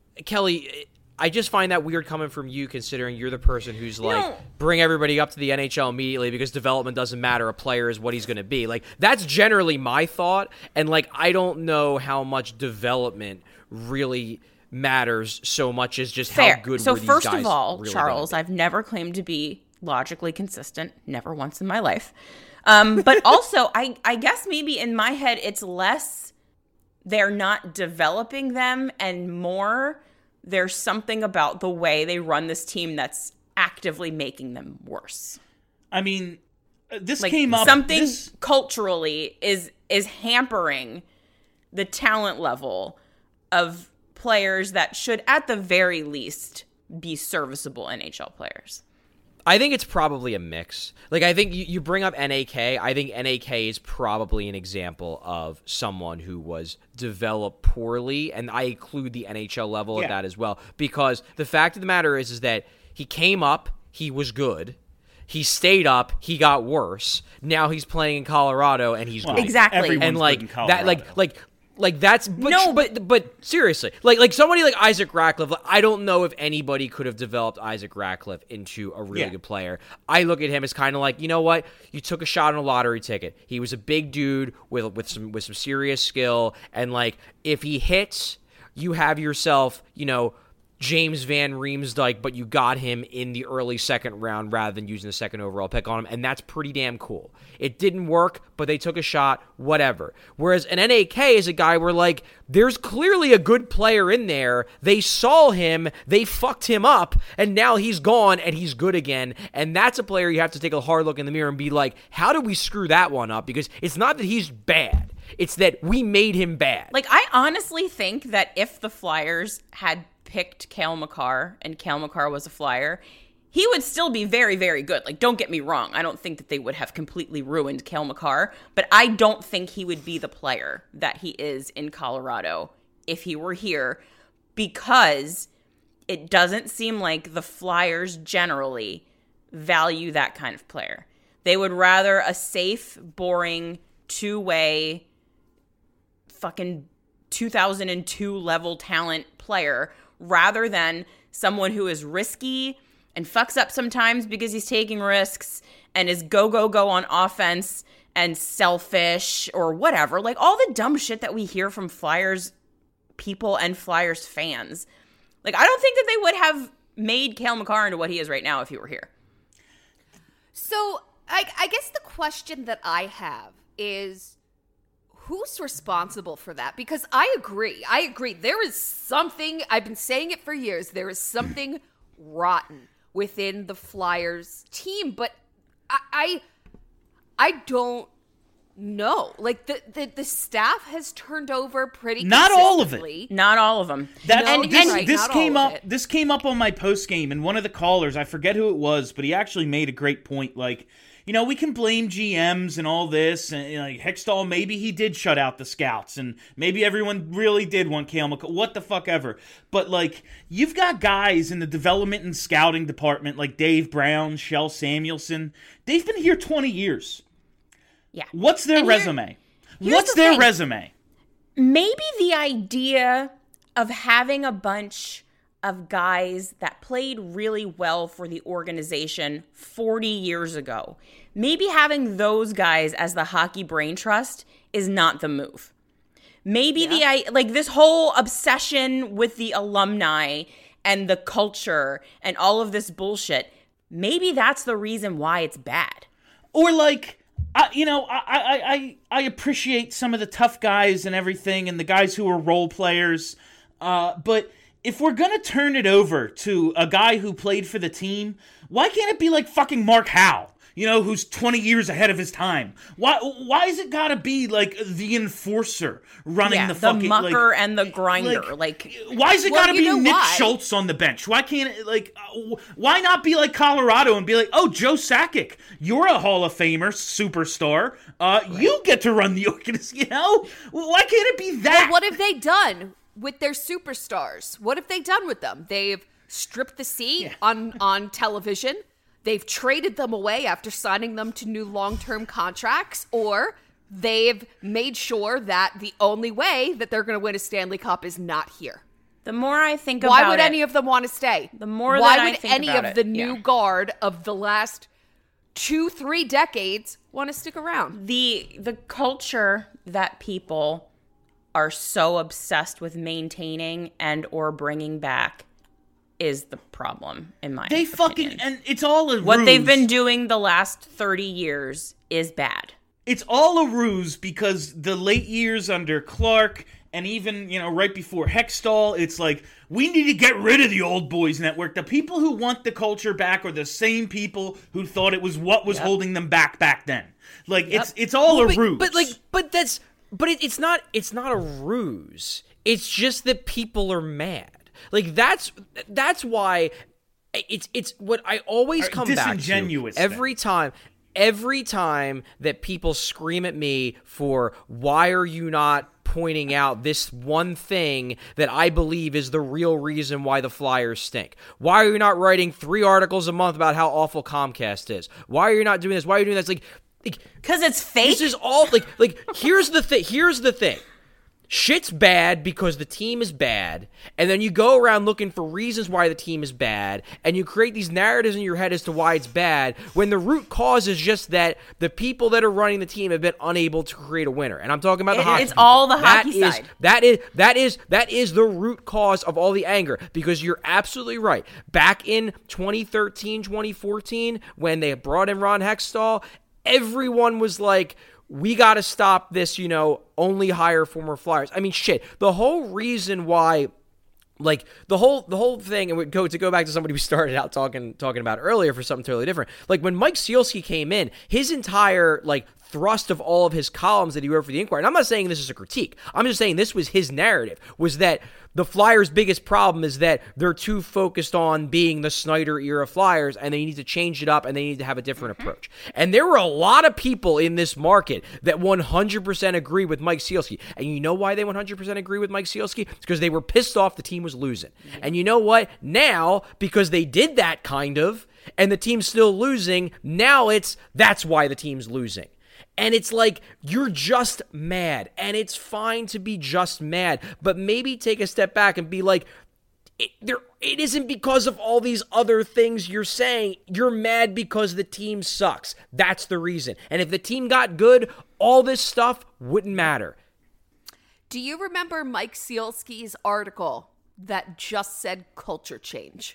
Kelly, I just find that weird coming from you, considering you're the person who's like, bring everybody up to the NHL immediately because development doesn't matter. A player is what he's going to be. Like, that's generally my thought. And, like, I don't know how much development really matters so much as just Fair. how good So were these first guys of all, really Charles, gonna I've never claimed to be logically consistent, never once in my life. But also, I guess maybe in my head, it's less they're not developing them and more there's something about the way they run this team that's actively making them worse. I mean, this Like, came up. something culturally is hampering the talent level of players that should, at the very least, be serviceable NHL players. I think it's probably a mix. Like, I think you bring up NAK. I think NAK is probably an example of someone who was developed poorly, and I include the NHL level of that as well. Because the fact of the matter is that he came up, he was good. He stayed up, he got worse. Now he's playing in Colorado, and he's good. Exactly. Everyone's And good like in that, Colorado. like that's but seriously, like somebody like Isaac Ratcliffe, I don't know if anybody could have developed Isaac Ratcliffe into a really good player. I look at him as kind of like, you know what, you took a shot on a lottery ticket. He was a big dude with some serious skill, and like if he hits, you have yourself, you know, James Van Riemsdyk, but you got him in the early second round rather than using the second overall pick on him, and that's pretty damn cool. It didn't work, but they took a shot, whatever. Whereas an NAK is a guy where, like, there's clearly a good player in there. They saw him, they fucked him up, and now he's gone and he's good again, and that's a player you have to take a hard look in the mirror and be like, how did we screw that one up? Because it's not that he's bad. It's that we made him bad. Like, I honestly think that if the Flyers had picked Cale Makar and Cale Makar was a Flyer, he would still be very, very good. Like, don't get me wrong. I don't think that they would have completely ruined Cale Makar, but I don't think he would be the player that he is in Colorado if he were here, because it doesn't seem like the Flyers generally value that kind of player. They would rather a safe, boring, two-way, fucking 2002 level talent player rather than someone who is risky and fucks up sometimes because he's taking risks and is go on offense and selfish or whatever. Like, all the dumb shit that we hear from Flyers people and Flyers fans. Like, I don't think that they would have made Cale Makar into what he is right now if he were here. So I guess the question that I have is, who's responsible for that? Because I agree. There is something, I've been saying it for years, there is something rotten within the Flyers team, but I don't know. Like, the staff has turned over pretty Not all of it. Not all of them. This came up on my post game, and one of the callers, I forget who it was, but he actually made a great point. Like, you know, we can blame GMs and all this, and like Hextall, maybe he did shut out the scouts, and maybe everyone really did want Cale Makar, what the fuck ever. But like, you've got guys in the development and scouting department like Dave Brown, Shel Samuelson. They've been here 20 years. Yeah. What's their resume? What's their resume? Maybe the idea of having a bunch of guys that played really well for the organization 40 years ago, maybe having those guys as the hockey brain trust is not the move. Maybe this whole obsession with the alumni and the culture and all of this bullshit, maybe that's the reason why it's bad. Or like, I appreciate some of the tough guys and everything and the guys who are role players, but if we're going to turn it over to a guy who played for the team, why can't it be like fucking Mark Howe, who's 20 years ahead of his time? Why is it got to be like the enforcer running the fucking... the mucker and the grinder. Why is it got to be Nick Schultz on the bench? Why can't it, why not be like Colorado and be like, oh, Joe Sakic, you're a Hall of Famer, superstar. You get to run the organization, Why can't it be that? Well, what have they done with their superstars? What have they done with them? They've stripped the seat on television. They've traded them away after signing them to new long-term contracts, or they've made sure that the only way that they're going to win a Stanley Cup is not here. The more I think about it... Why would any of them want to stay? The more Why that I would think any about of it, the new guard of the last 2-3 decades want to stick around? The culture that people are so obsessed with maintaining and or bringing back is the problem, in my opinion. And it's all a ruse. What they've been doing the last 30 years is bad. It's all a ruse because the late years under Clark and even, right before Hextall, it's like, we need to get rid of the old boys network. The people who want the culture back are the same people who thought it was what was holding them back then. Like, it's all a ruse. But it's not a ruse. It's just that people are mad. Like, that's why it's what I always come back to every time that people scream at me for, why are you not pointing out this one thing that I believe is the real reason why the Flyers stink? Why are you not writing 3 articles a month about how awful Comcast is? Why are you not doing this? Why are you doing this? Like, because it's fake. This is all like here's the thing. Shit's bad because the team is bad, and then you go around looking for reasons why the team is bad, and you create these narratives in your head as to why it's bad, when the root cause is just that the people that are running the team have been unable to create a winner. And I'm talking about the hockey. It's all the hockey side. That is the root cause of all the anger, because you're absolutely right. Back in 2013, 2014, when they brought in Ron Hextall, everyone was like, we got to stop this, only hire former Flyers. I mean, shit. The whole reason why, like, the whole thing, and to go back to somebody we started out talking about earlier for something totally different. Like, when Mike Sealski came in, his entire, thrust of all of his columns that he wrote for the Inquirer. And I'm not saying this is a critique. I'm just saying this was his narrative, was that the Flyers' biggest problem is that they're too focused on being the Snyder-era Flyers, and they need to change it up, and they need to have a different approach. And there were a lot of people in this market that 100% agree with Mike Sealski. And you know why they 100% agree with Mike Sealski? It's because they were pissed off the team was losing. And you know what? Now, because they did that kind of, and the team's still losing, now that's why the team's losing. And it's like, you're just mad, and it's fine to be just mad, but maybe take a step back and be like, it isn't because of all these other things you're saying. You're mad because the team sucks. That's the reason. And if the team got good, all this stuff wouldn't matter. Do you remember Mike Sealski's article that just said culture change?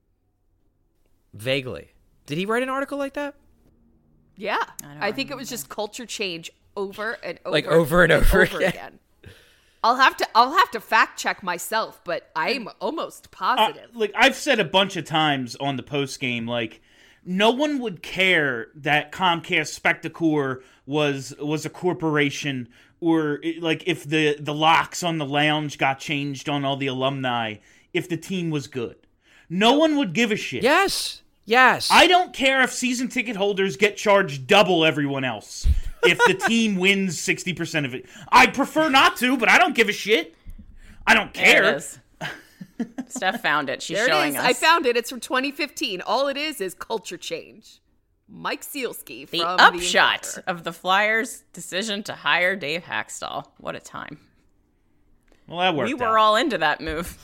Vaguely. Did he write an article like that? Yeah. I think it was just culture change over and over. Like over and over again. I'll have to fact check myself, but I'm almost positive. Like I've said a bunch of times on the post game, like no one would care that Comcast Spectacor was a corporation, or like if the locks on the lounge got changed on all the alumni, if the team was good. No one would give a shit. Yes. I don't care if season ticket holders get charged double everyone else if the team wins 60% of it. I'd prefer not to, but I don't give a shit. I don't care. There it is. Steph found it. She's there showing it is. us. I found it. It's from 2015. All it is culture change. Mike Sealski from the the upshot Inquirer. of the Flyers' decision to hire Dave Haxtell. What a time. Well, that worked We out. were all into that move.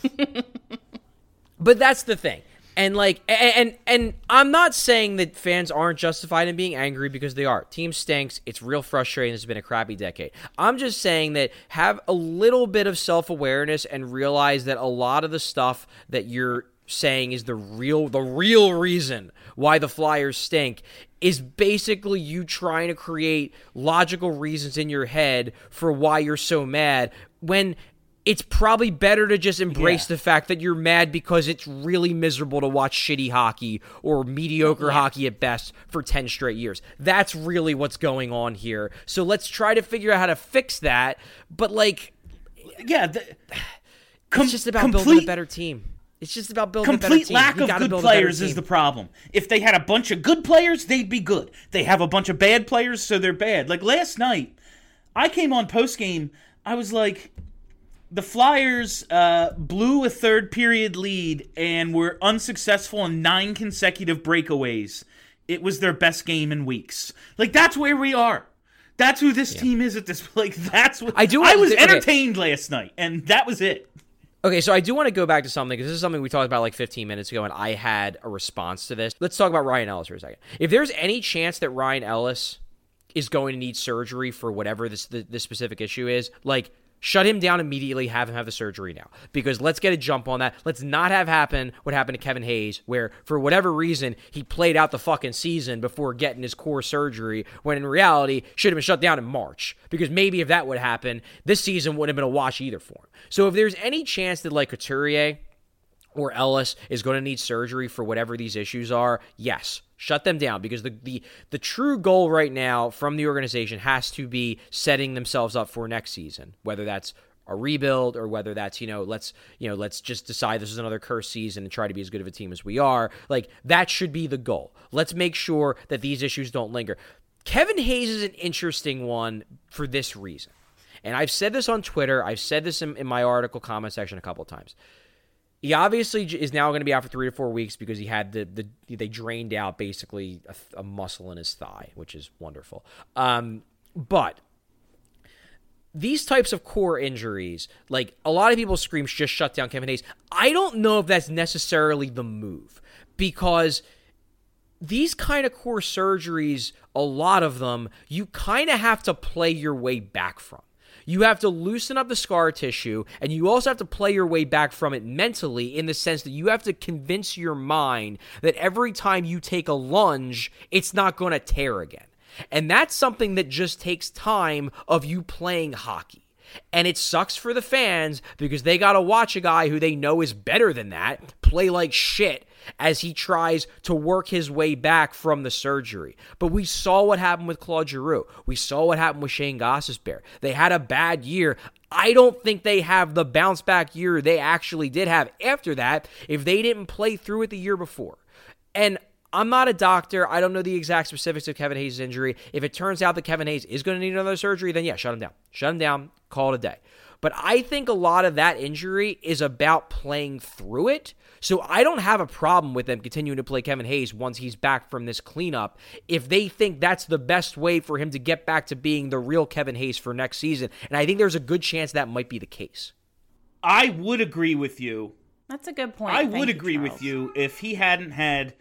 But that's the thing. And like, and I'm not saying that fans aren't justified in being angry, because they are. Team stinks. It's real frustrating. It's been a crappy decade. I'm just saying that have a little bit of self-awareness and realize that a lot of the stuff that you're saying is the real reason why the Flyers stink is basically you trying to create logical reasons in your head for why you're so mad, when it's probably better to just embrace the fact that you're mad because it's really miserable to watch shitty hockey or mediocre hockey at best for 10 straight years. That's really what's going on here. So let's try to figure out how to fix that. But like, yeah, it's just about building a better team. It's just about building a better team. Complete lack of good players is the problem. If they had a bunch of good players, they'd be good. They have a bunch of bad players, so they're bad. Like last night, I came on postgame, I was like, the Flyers blew a third period lead and were unsuccessful in 9 consecutive breakaways. It was their best game in weeks. Like, that's where we are. That's who this team is at this. Like, that's what I was entertained last night, and that was it. Okay, so I do want to go back to something, because this is something we talked about like 15 minutes ago, and I had a response to this. Let's talk about Ryan Ellis for a second. If there's any chance that Ryan Ellis is going to need surgery for whatever this specific issue is, like, shut him down immediately, have him have the surgery now. Because let's get a jump on that. Let's not have happen what happened to Kevin Hayes, where for whatever reason, he played out the fucking season before getting his core surgery, when in reality, should have been shut down in March. Because maybe if that would happen, this season wouldn't have been a wash either for him. So if there's any chance that like Couturier or Ellis is going to need surgery for whatever these issues are, yes, shut them down, because the true goal right now from the organization has to be setting themselves up for next season, whether that's a rebuild or whether that's, let's just decide this is another cursed season and try to be as good of a team as we are. Like, that should be the goal. Let's make sure that these issues don't linger. Kevin Hayes is an interesting one for this reason. And I've said this on Twitter. I've said this in my article comment section a couple of times. He obviously is now going to be out for 3 to 4 weeks because he had they drained out basically a muscle in his thigh, which is wonderful. But these types of core injuries, like a lot of people scream, just shut down Kevin Hayes. I don't know if that's necessarily the move, because these kind of core surgeries, a lot of them, you kind of have to play your way back from. You have to loosen up the scar tissue, and you also have to play your way back from it mentally, in the sense that you have to convince your mind that every time you take a lunge, it's not going to tear again. And that's something that just takes time of you playing hockey. And it sucks for the fans because they got to watch a guy who they know is better than that play like shit as he tries to work his way back from the surgery. But we saw what happened with Claude Giroux. We saw what happened with Shane Gostisbehere. They had a bad year. I don't think they have the bounce back year they actually did have after that if they didn't play through it the year before. And I'm not a doctor. I don't know the exact specifics of Kevin Hayes' injury. If it turns out that Kevin Hayes is going to need another surgery, then yeah, shut him down. Shut him down. Call it a day. But I think a lot of that injury is about playing through it. So I don't have a problem with them continuing to play Kevin Hayes once he's back from this cleanup if they think that's the best way for him to get back to being the real Kevin Hayes for next season. And I think there's a good chance that might be the case. I would agree with you. That's a good point. I Thank would you, agree Charles. with you if he hadn't had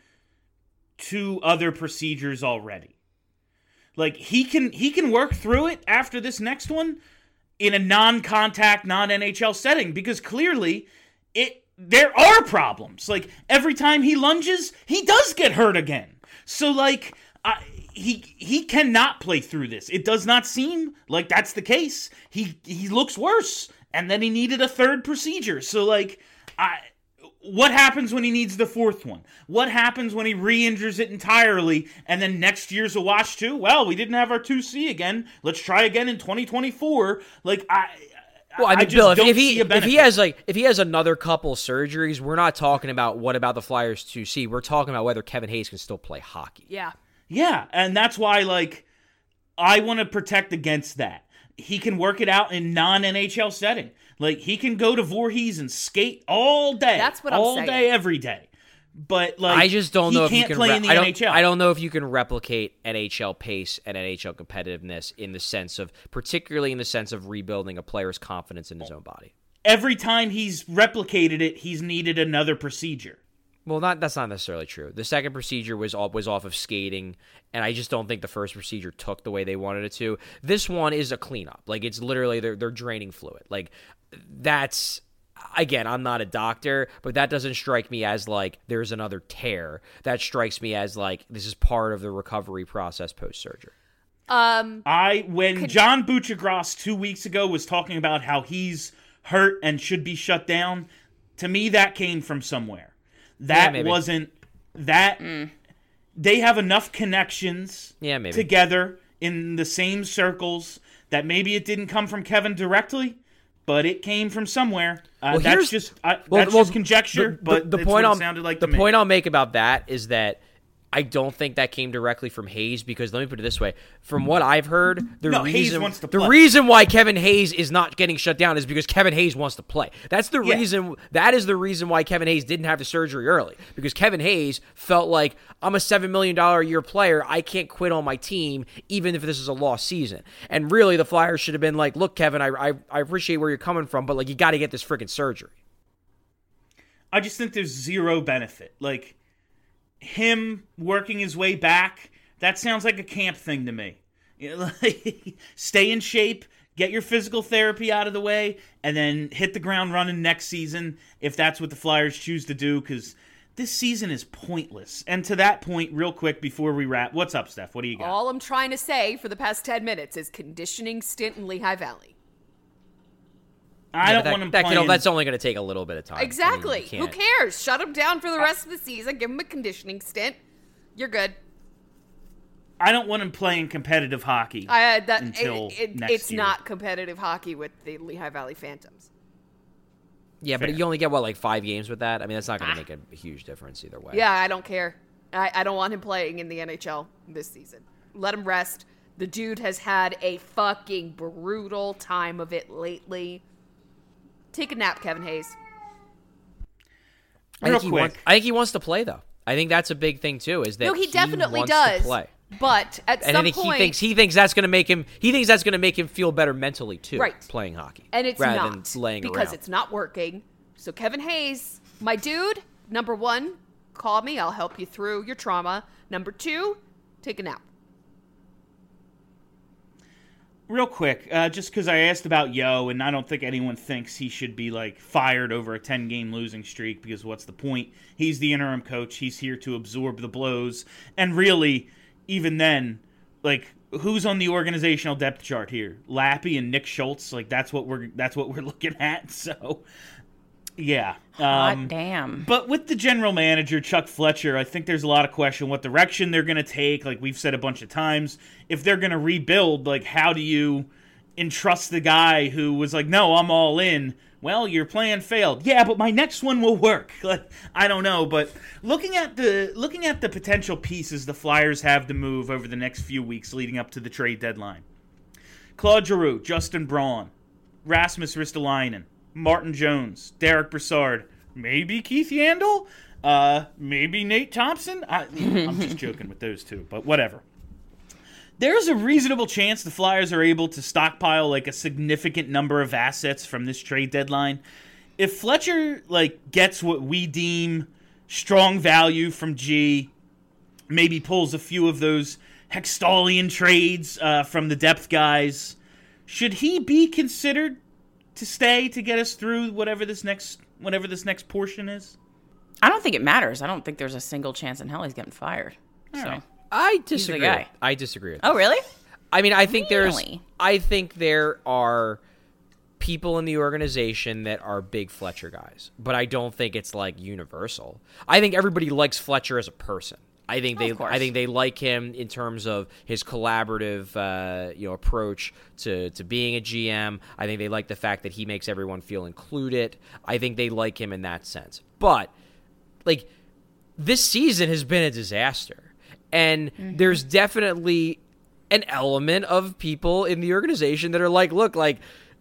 2 other procedures already. Like, he can work through it after this next one in a non-contact, non-NHL setting, because clearly there are problems. Like, every time he lunges, he does get hurt again. So, like, he cannot play through this. It does not seem like that's the case. He looks worse, and then he needed a 3rd procedure. So, like, what happens when he needs the 4th one? What happens when he re-injures it entirely, and then next year's a wash too? Well, we didn't have our 2C again. Let's try again in 2024. Like, Well, I mean, just Bill, don't if see a benefit. if he has another couple surgeries, we're not talking about what about the Flyers 2C. We're talking about whether Kevin Hayes can still play hockey. Yeah. Yeah, and that's why, like, I want to protect against that. He can work it out in non-NHL setting. Like, he can go to Voorhees and skate all day. That's what I'm all saying. day, every day. But, like, I just don't know if you can't can play in the NHL. I don't know if you can replicate NHL pace and NHL competitiveness in the sense of, particularly in the sense of rebuilding a player's confidence in his own body. Every time he's replicated it, he's needed another procedure. Well, that's not necessarily true. The second procedure was off of skating, and I just don't think the first procedure took the way they wanted it to. This one is a cleanup. Like, it's literally they're draining fluid. Like, that's, again, I'm not a doctor, but that doesn't strike me as like there's another tear. That strikes me as like this is part of the recovery process post-surgery. When John Buccigross 2 weeks ago was talking about how he's hurt and should be shut down, to me that came from somewhere. That wasn't that. They have enough connections together in the same circles that maybe it didn't come from Kevin directly, but it came from somewhere. That's just conjecture. But the it's point what it sounded like to me. point I'll make about that is that I don't think that came directly from Hayes because, let me put it this way, from what I've heard, Hayes wants to the play. reason why Kevin Hayes is not getting shut down is because Kevin Hayes wants to play. That's the reason. That is the reason why Kevin Hayes didn't have the surgery early, because Kevin Hayes felt like, I'm a $7 million a year player. I can't quit on my team even if this is a lost season. And really, the Flyers should have been like, look, Kevin, I appreciate where you're coming from, but like you got to get this freaking surgery. I just think there's zero benefit. Like, him working his way back, that sounds like a camp thing to me. You know, like, stay in shape, get your physical therapy out of the way, and then hit the ground running next season if that's what the Flyers choose to do, because this season is pointless. And to that point, real quick before we wrap, what's up, Steph? What do you got? All I'm trying to say for the past 10 minutes is conditioning stint in Lehigh Valley. I don't want him playing. That's only going to take a little bit of time. Exactly. I mean, Who cares? Shut him down for the rest of the season. Give him a conditioning stint. You're good. I don't want him playing competitive hockey until next it's year. not competitive hockey with the Lehigh Valley Phantoms. Yeah, Fair. but you only get, 5 games with that? I mean, that's not going to make a huge difference either way. Yeah, I don't care. I don't want him playing in the NHL this season. Let him rest. The dude has had a fucking brutal time of it lately. Take a nap, Kevin Hayes. Real quick. I think he wants to play, though. I think that's a big thing, too, is that No, he definitely wants does. to play. But at And some I think point, he thinks that's going to make him. He thinks that's going to make him feel better mentally too. Right. Playing hockey, and it's rather not than laying because around. it's not working. So Kevin Hayes, my dude, number 1, call me. I'll help you through your trauma. Number 2, take a nap. Real quick, just because I asked about Yo, and I don't think anyone thinks he should be like fired over a 10-game losing streak, because what's the point? He's the interim coach. He's here to absorb the blows. And really, even then, like, who's on the organizational depth chart here? Lappy and Nick Schultz. Like that's what we're looking at. So yeah. Hot damn. But with the general manager, Chuck Fletcher, I think there's a lot of question what direction they're going to take. Like we've said a bunch of times, if they're going to rebuild, like how do you entrust the guy who was like, no, I'm all in. Well, your plan failed. Yeah, but my next one will work. Like, I don't know, but looking at the potential pieces the Flyers have to move over the next few weeks leading up to the trade deadline. Claude Giroux, Justin Braun, Rasmus Ristolainen, Martin Jones, Derek Brassard, maybe Keith Yandel, maybe Nate Thompson. I'm just joking with those two, but whatever. There's a reasonable chance the Flyers are able to stockpile like a significant number of assets from this trade deadline. If Fletcher like gets what we deem strong value from G, maybe pulls a few of those Hextalian trades from the depth guys, should he be considered to stay to get us through whatever this next portion is? I don't think it matters. I don't think there's a single chance in hell he's getting fired. All right. I disagree. guy. I disagree with Oh, really? I mean, I think Really? I think there are people in the organization that are big Fletcher guys, but I don't think it's like universal. I think everybody likes Fletcher as a person. I think they like him in terms of his collaborative approach to being a GM. I think they like the fact that he makes everyone feel included. I think they like him in that sense. But like this season has been a disaster. And there's definitely an element of people in the organization that are like, look, like,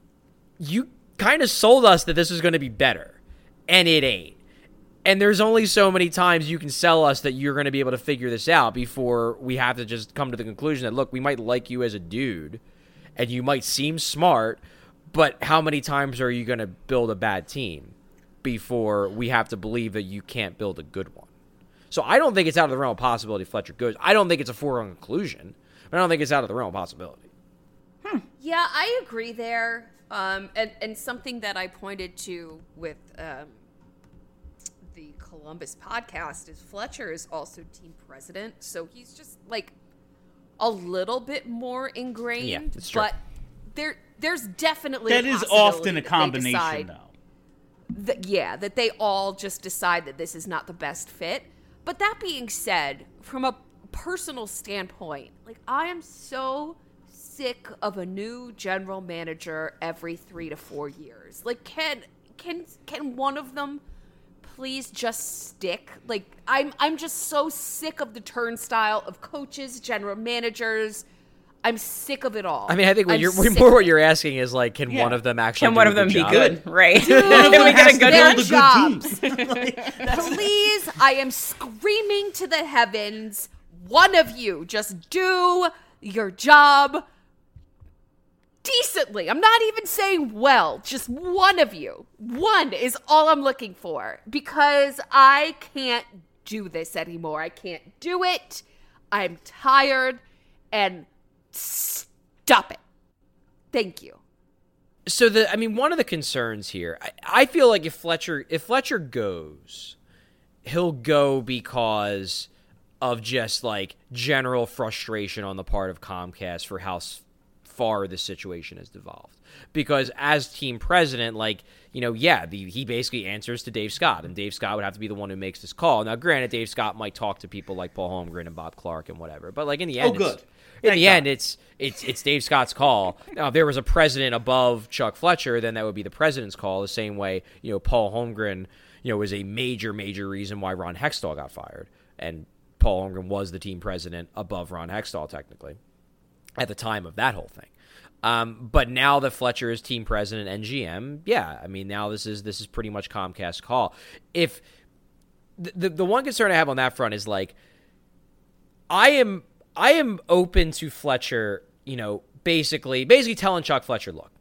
you kind of sold us that this is going to be better, and it ain't. And there's only so many times you can sell us that you're going to be able to figure this out before we have to just come to the conclusion that, look, we might like you as a dude, and you might seem smart, but how many times are you going to build a bad team before we have to believe that you can't build a good one? So I don't think it's out of the realm of possibility Fletcher goes. I don't think it's a foregone conclusion, but I don't think it's out of the realm of possibility. Yeah, I agree there. And something that I pointed to with the Columbus podcast is Fletcher is also team president, so he's just like a little bit more ingrained. Yeah, it's true. But there's definitely That a is possibility often a that they combination, decide though. that they all just decide that this is not the best fit. But that being said, from a personal standpoint, like I am so sick of a new general manager every 3 to 4 years. Like can one of them please just stick? Like I'm just so sick of the turnstile of coaches, general managers. I'm sick of it all. I mean, I think what you're asking is like, can one of them actually? Can one of them be good? Right? Can we get a good their one? jobs. Please, I am screaming to the heavens. One of you just do your job decently. I'm not even saying well, just one of you. One is all I'm looking for because I can't do this anymore. I can't do it. I'm tired and stop it. Thank you. So one of the concerns here, I feel like if Fletcher goes, he'll go because of just like general frustration on the part of Comcast for how far this situation has devolved. Because as team president, he basically answers to Dave Scott, and Dave Scott would have to be the one who makes this call. Now, granted, Dave Scott might talk to people like Paul Holmgren and Bob Clark and whatever, but like in the end, it's Dave Scott's call. Now, if there was a president above Chuck Fletcher, then that would be the president's call. The same way, Paul Holmgren, was a major reason why Ron Hextall got fired, and Paul Holmgren was the team president above Ron Hextall technically at the time of that whole thing. But now that Fletcher is team president and GM, now this is pretty much Comcast's call. If the one concern I have on that front is like, I am open to Fletcher, basically telling Chuck Fletcher, look,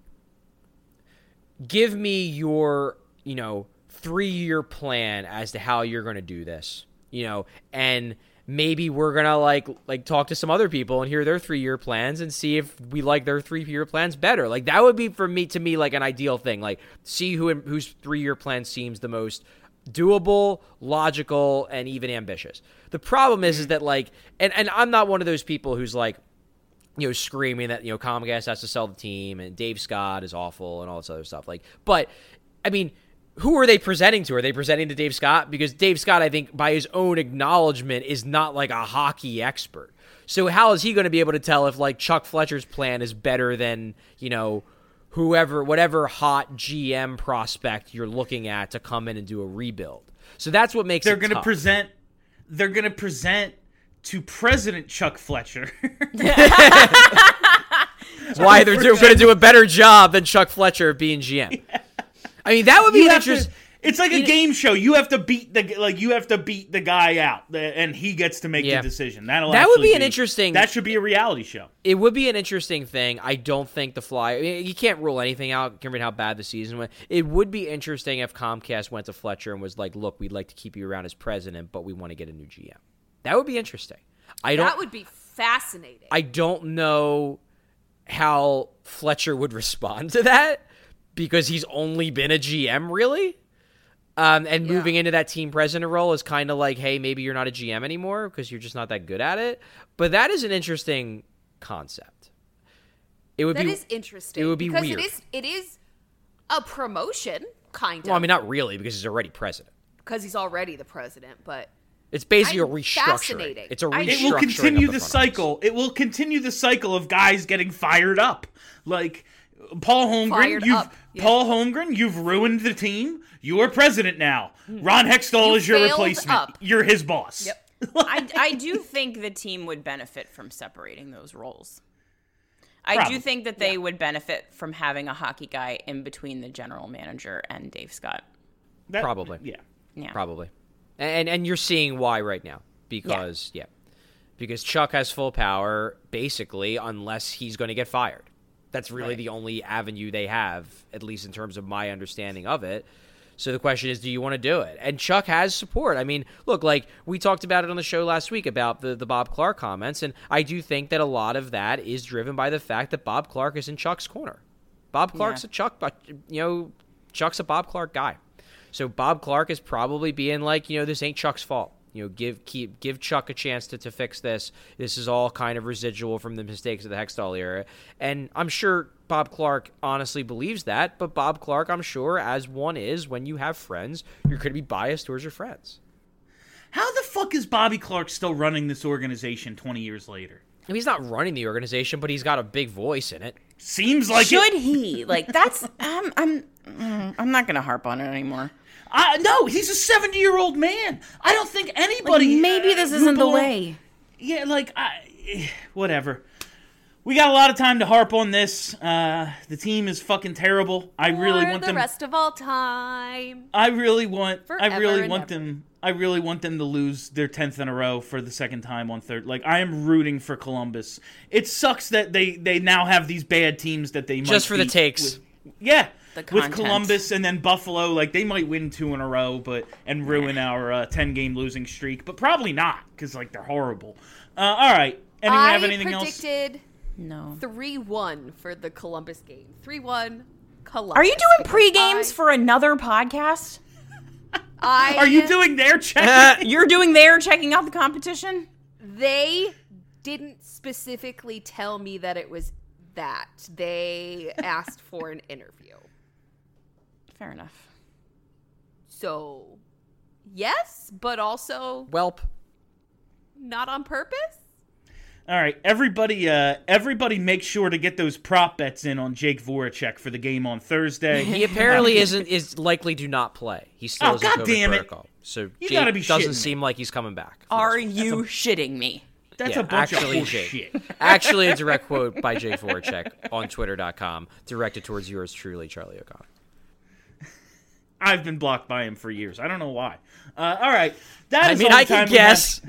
give me your, 3-year plan as to how you're going to do this, and maybe we're going to like talk to some other people and hear their 3-year plans and see if we like their 3-year plans better. Like that would be to me like an ideal thing. Like see whose 3-year plan seems the most doable, logical, and even ambitious. The problem is that like, and I'm not one of those people who's like, screaming that, Comcast has to sell the team and Dave Scott is awful and all this other stuff. But, I mean, who are they presenting to? Are they presenting to Dave Scott? Because Dave Scott, I think, by his own acknowledgement, is not like a hockey expert. So how is he going to be able to tell if, Chuck Fletcher's plan is better than, whatever hot GM prospect you're looking at to come in and do a rebuild? So that's what makes They're it going to tough. They're going to present to President Chuck Fletcher. Why they're going to do a better job than Chuck Fletcher being GM. Yeah. I mean, that would be an interesting. It's like a game show. You have to beat the guy out, and he gets to make the decision. That would be an interesting. That should be a reality show. It would be an interesting thing. I don't think the Flyers. You can't rule anything out, given how bad the season went. It would be interesting if Comcast went to Fletcher and was like, "Look, we'd like to keep you around as president, but we want to get a new GM." That would be interesting. That would be fascinating. I don't know how Fletcher would respond to that because he's only been a GM, really. And moving into that team president role is kind of like, hey, maybe you're not a GM anymore because you're just not that good at it. But that is an interesting concept. That is interesting. It would be weird. Because it is a promotion, kind of. Well, I mean, not really because he's already president. Because he's already the president, but... It's basically a restructuring. It's a restructuring. It will continue the cycle. It will continue the cycle of guys getting fired up. Like Paul Holmgren, Paul Holmgren, you've ruined the team. You are president now. Ron Hextall is your replacement. You're his boss. Yep. I do think the team would benefit from separating those roles. I do think that they would benefit from having a hockey guy in between the general manager and Dave Scott. Probably. Yeah. Probably. And you're seeing why right now because Chuck has full power basically unless he's going to get fired. That's really the only avenue they have, at least in terms of my understanding of it. So the question is, do you want to do it? And Chuck has support. I mean, look, we talked about it on the show last week about the Bob Clark comments, and I do think that a lot of that is driven by the fact that Bob Clark is in Chuck's corner. Bob Clark's Chuck's a Bob Clark guy. So Bob Clark is probably being like, this ain't Chuck's fault. Give Chuck a chance to fix this. This is all kind of residual from the mistakes of the Hextall era. And I'm sure Bob Clark honestly believes that, but Bob Clark, I'm sure, as one is, when you have friends, you're going to be biased towards your friends. How the fuck is Bobby Clark still running this organization 20 years later? I mean, he's not running the organization, but he's got a big voice in it. Seems like Should he? That's... I'm not going to harp on it anymore. No, he's a 70-year-old man. I don't think anybody... maybe this isn't the way. Yeah, whatever. We got a lot of time to harp on this. The team is fucking terrible. I really want them... the rest of all time. I really want them to lose their 10th in a row for the second time on third. I am rooting for Columbus. It sucks that they now have these bad teams that they might just for the takes. With Columbus and then Buffalo, they might win 2 in a row, and ruin our 10-game losing streak, but probably not because they're horrible. All right, anyone have anything else? I predicted no 3-1 for the Columbus game. 3-1 Columbus. Are you doing pre-games for another podcast? Are you doing their check? You're doing their checking out the competition? They didn't specifically tell me that it was that. They asked for an interview. Fair enough. So, yes, but also... Welp. Not on purpose? All right, everybody make sure to get those prop bets in on Jake Voracek for the game on Thursday. He apparently is likely to not play. He still is in COVID protocol. So you Jake doesn't seem like he's coming back. Are you shitting me? That's a bunch of shit. Actually, a direct quote by Jake Voracek on Twitter.com, directed towards yours truly, Charlie O'Connor. I've been blocked by him for years. I don't know why. All right. I can guess.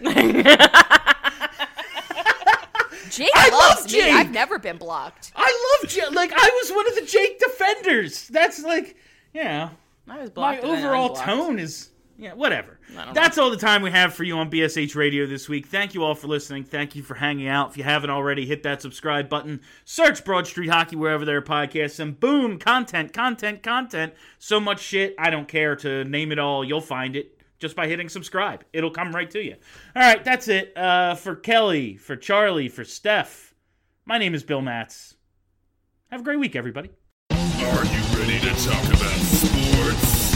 Jake loves me. Jake. I've never been blocked. I love Jake. I was one of the Jake defenders. That's I was blocked. My overall tone is... Yeah, whatever. That's all the time we have for you on BSH Radio this week. Thank you all for listening. Thank you for hanging out. If you haven't already, hit that subscribe button. Search Broad Street Hockey wherever there are podcasts, and boom, content. So much shit, I don't care to name it all. You'll find it just by hitting subscribe. It'll come right to you. All right, that's it. For Kelly, for Charlie, for Steph, My name is Bill Matz. Have a great week, everybody. Are you ready to talk about sports?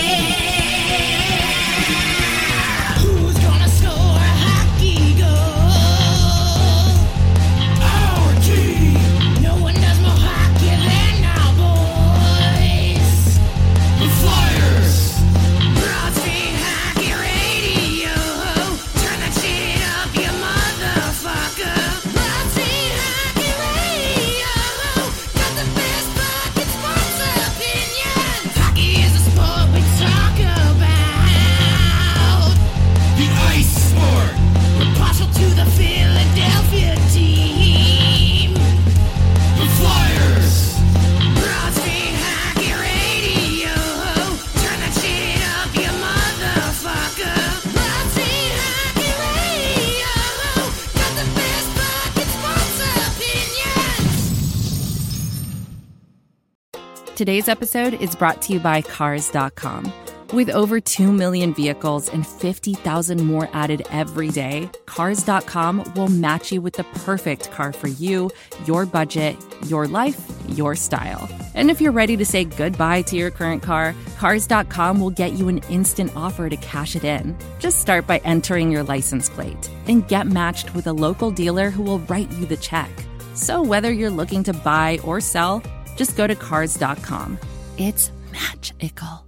Who's gonna score a hockey goal? Our team. No one does more hockey than our boys. The Flyers. Broad Street Hockey Radio. Turn that shit up, you motherfucker. Broad Street Hockey Radio. Got the best fucking sports opinions. Hockey is a sport we talk about. The ice sport. We're partial to the Philadelphia team. The Flyers. Broad Street Hockey Radio. Turn that shit up, you motherfucker. Broad Street Hockey Radio. Got the best fucking sports opinions. Today's episode is brought to you by Cars.com. With over 2 million vehicles and 50,000 more added every day, Cars.com will match you with the perfect car for you, your budget, your life, your style. And if you're ready to say goodbye to your current car, Cars.com will get you an instant offer to cash it in. Just start by entering your license plate and get matched with a local dealer who will write you the check. So whether you're looking to buy or sell, just go to Cars.com. It's magical.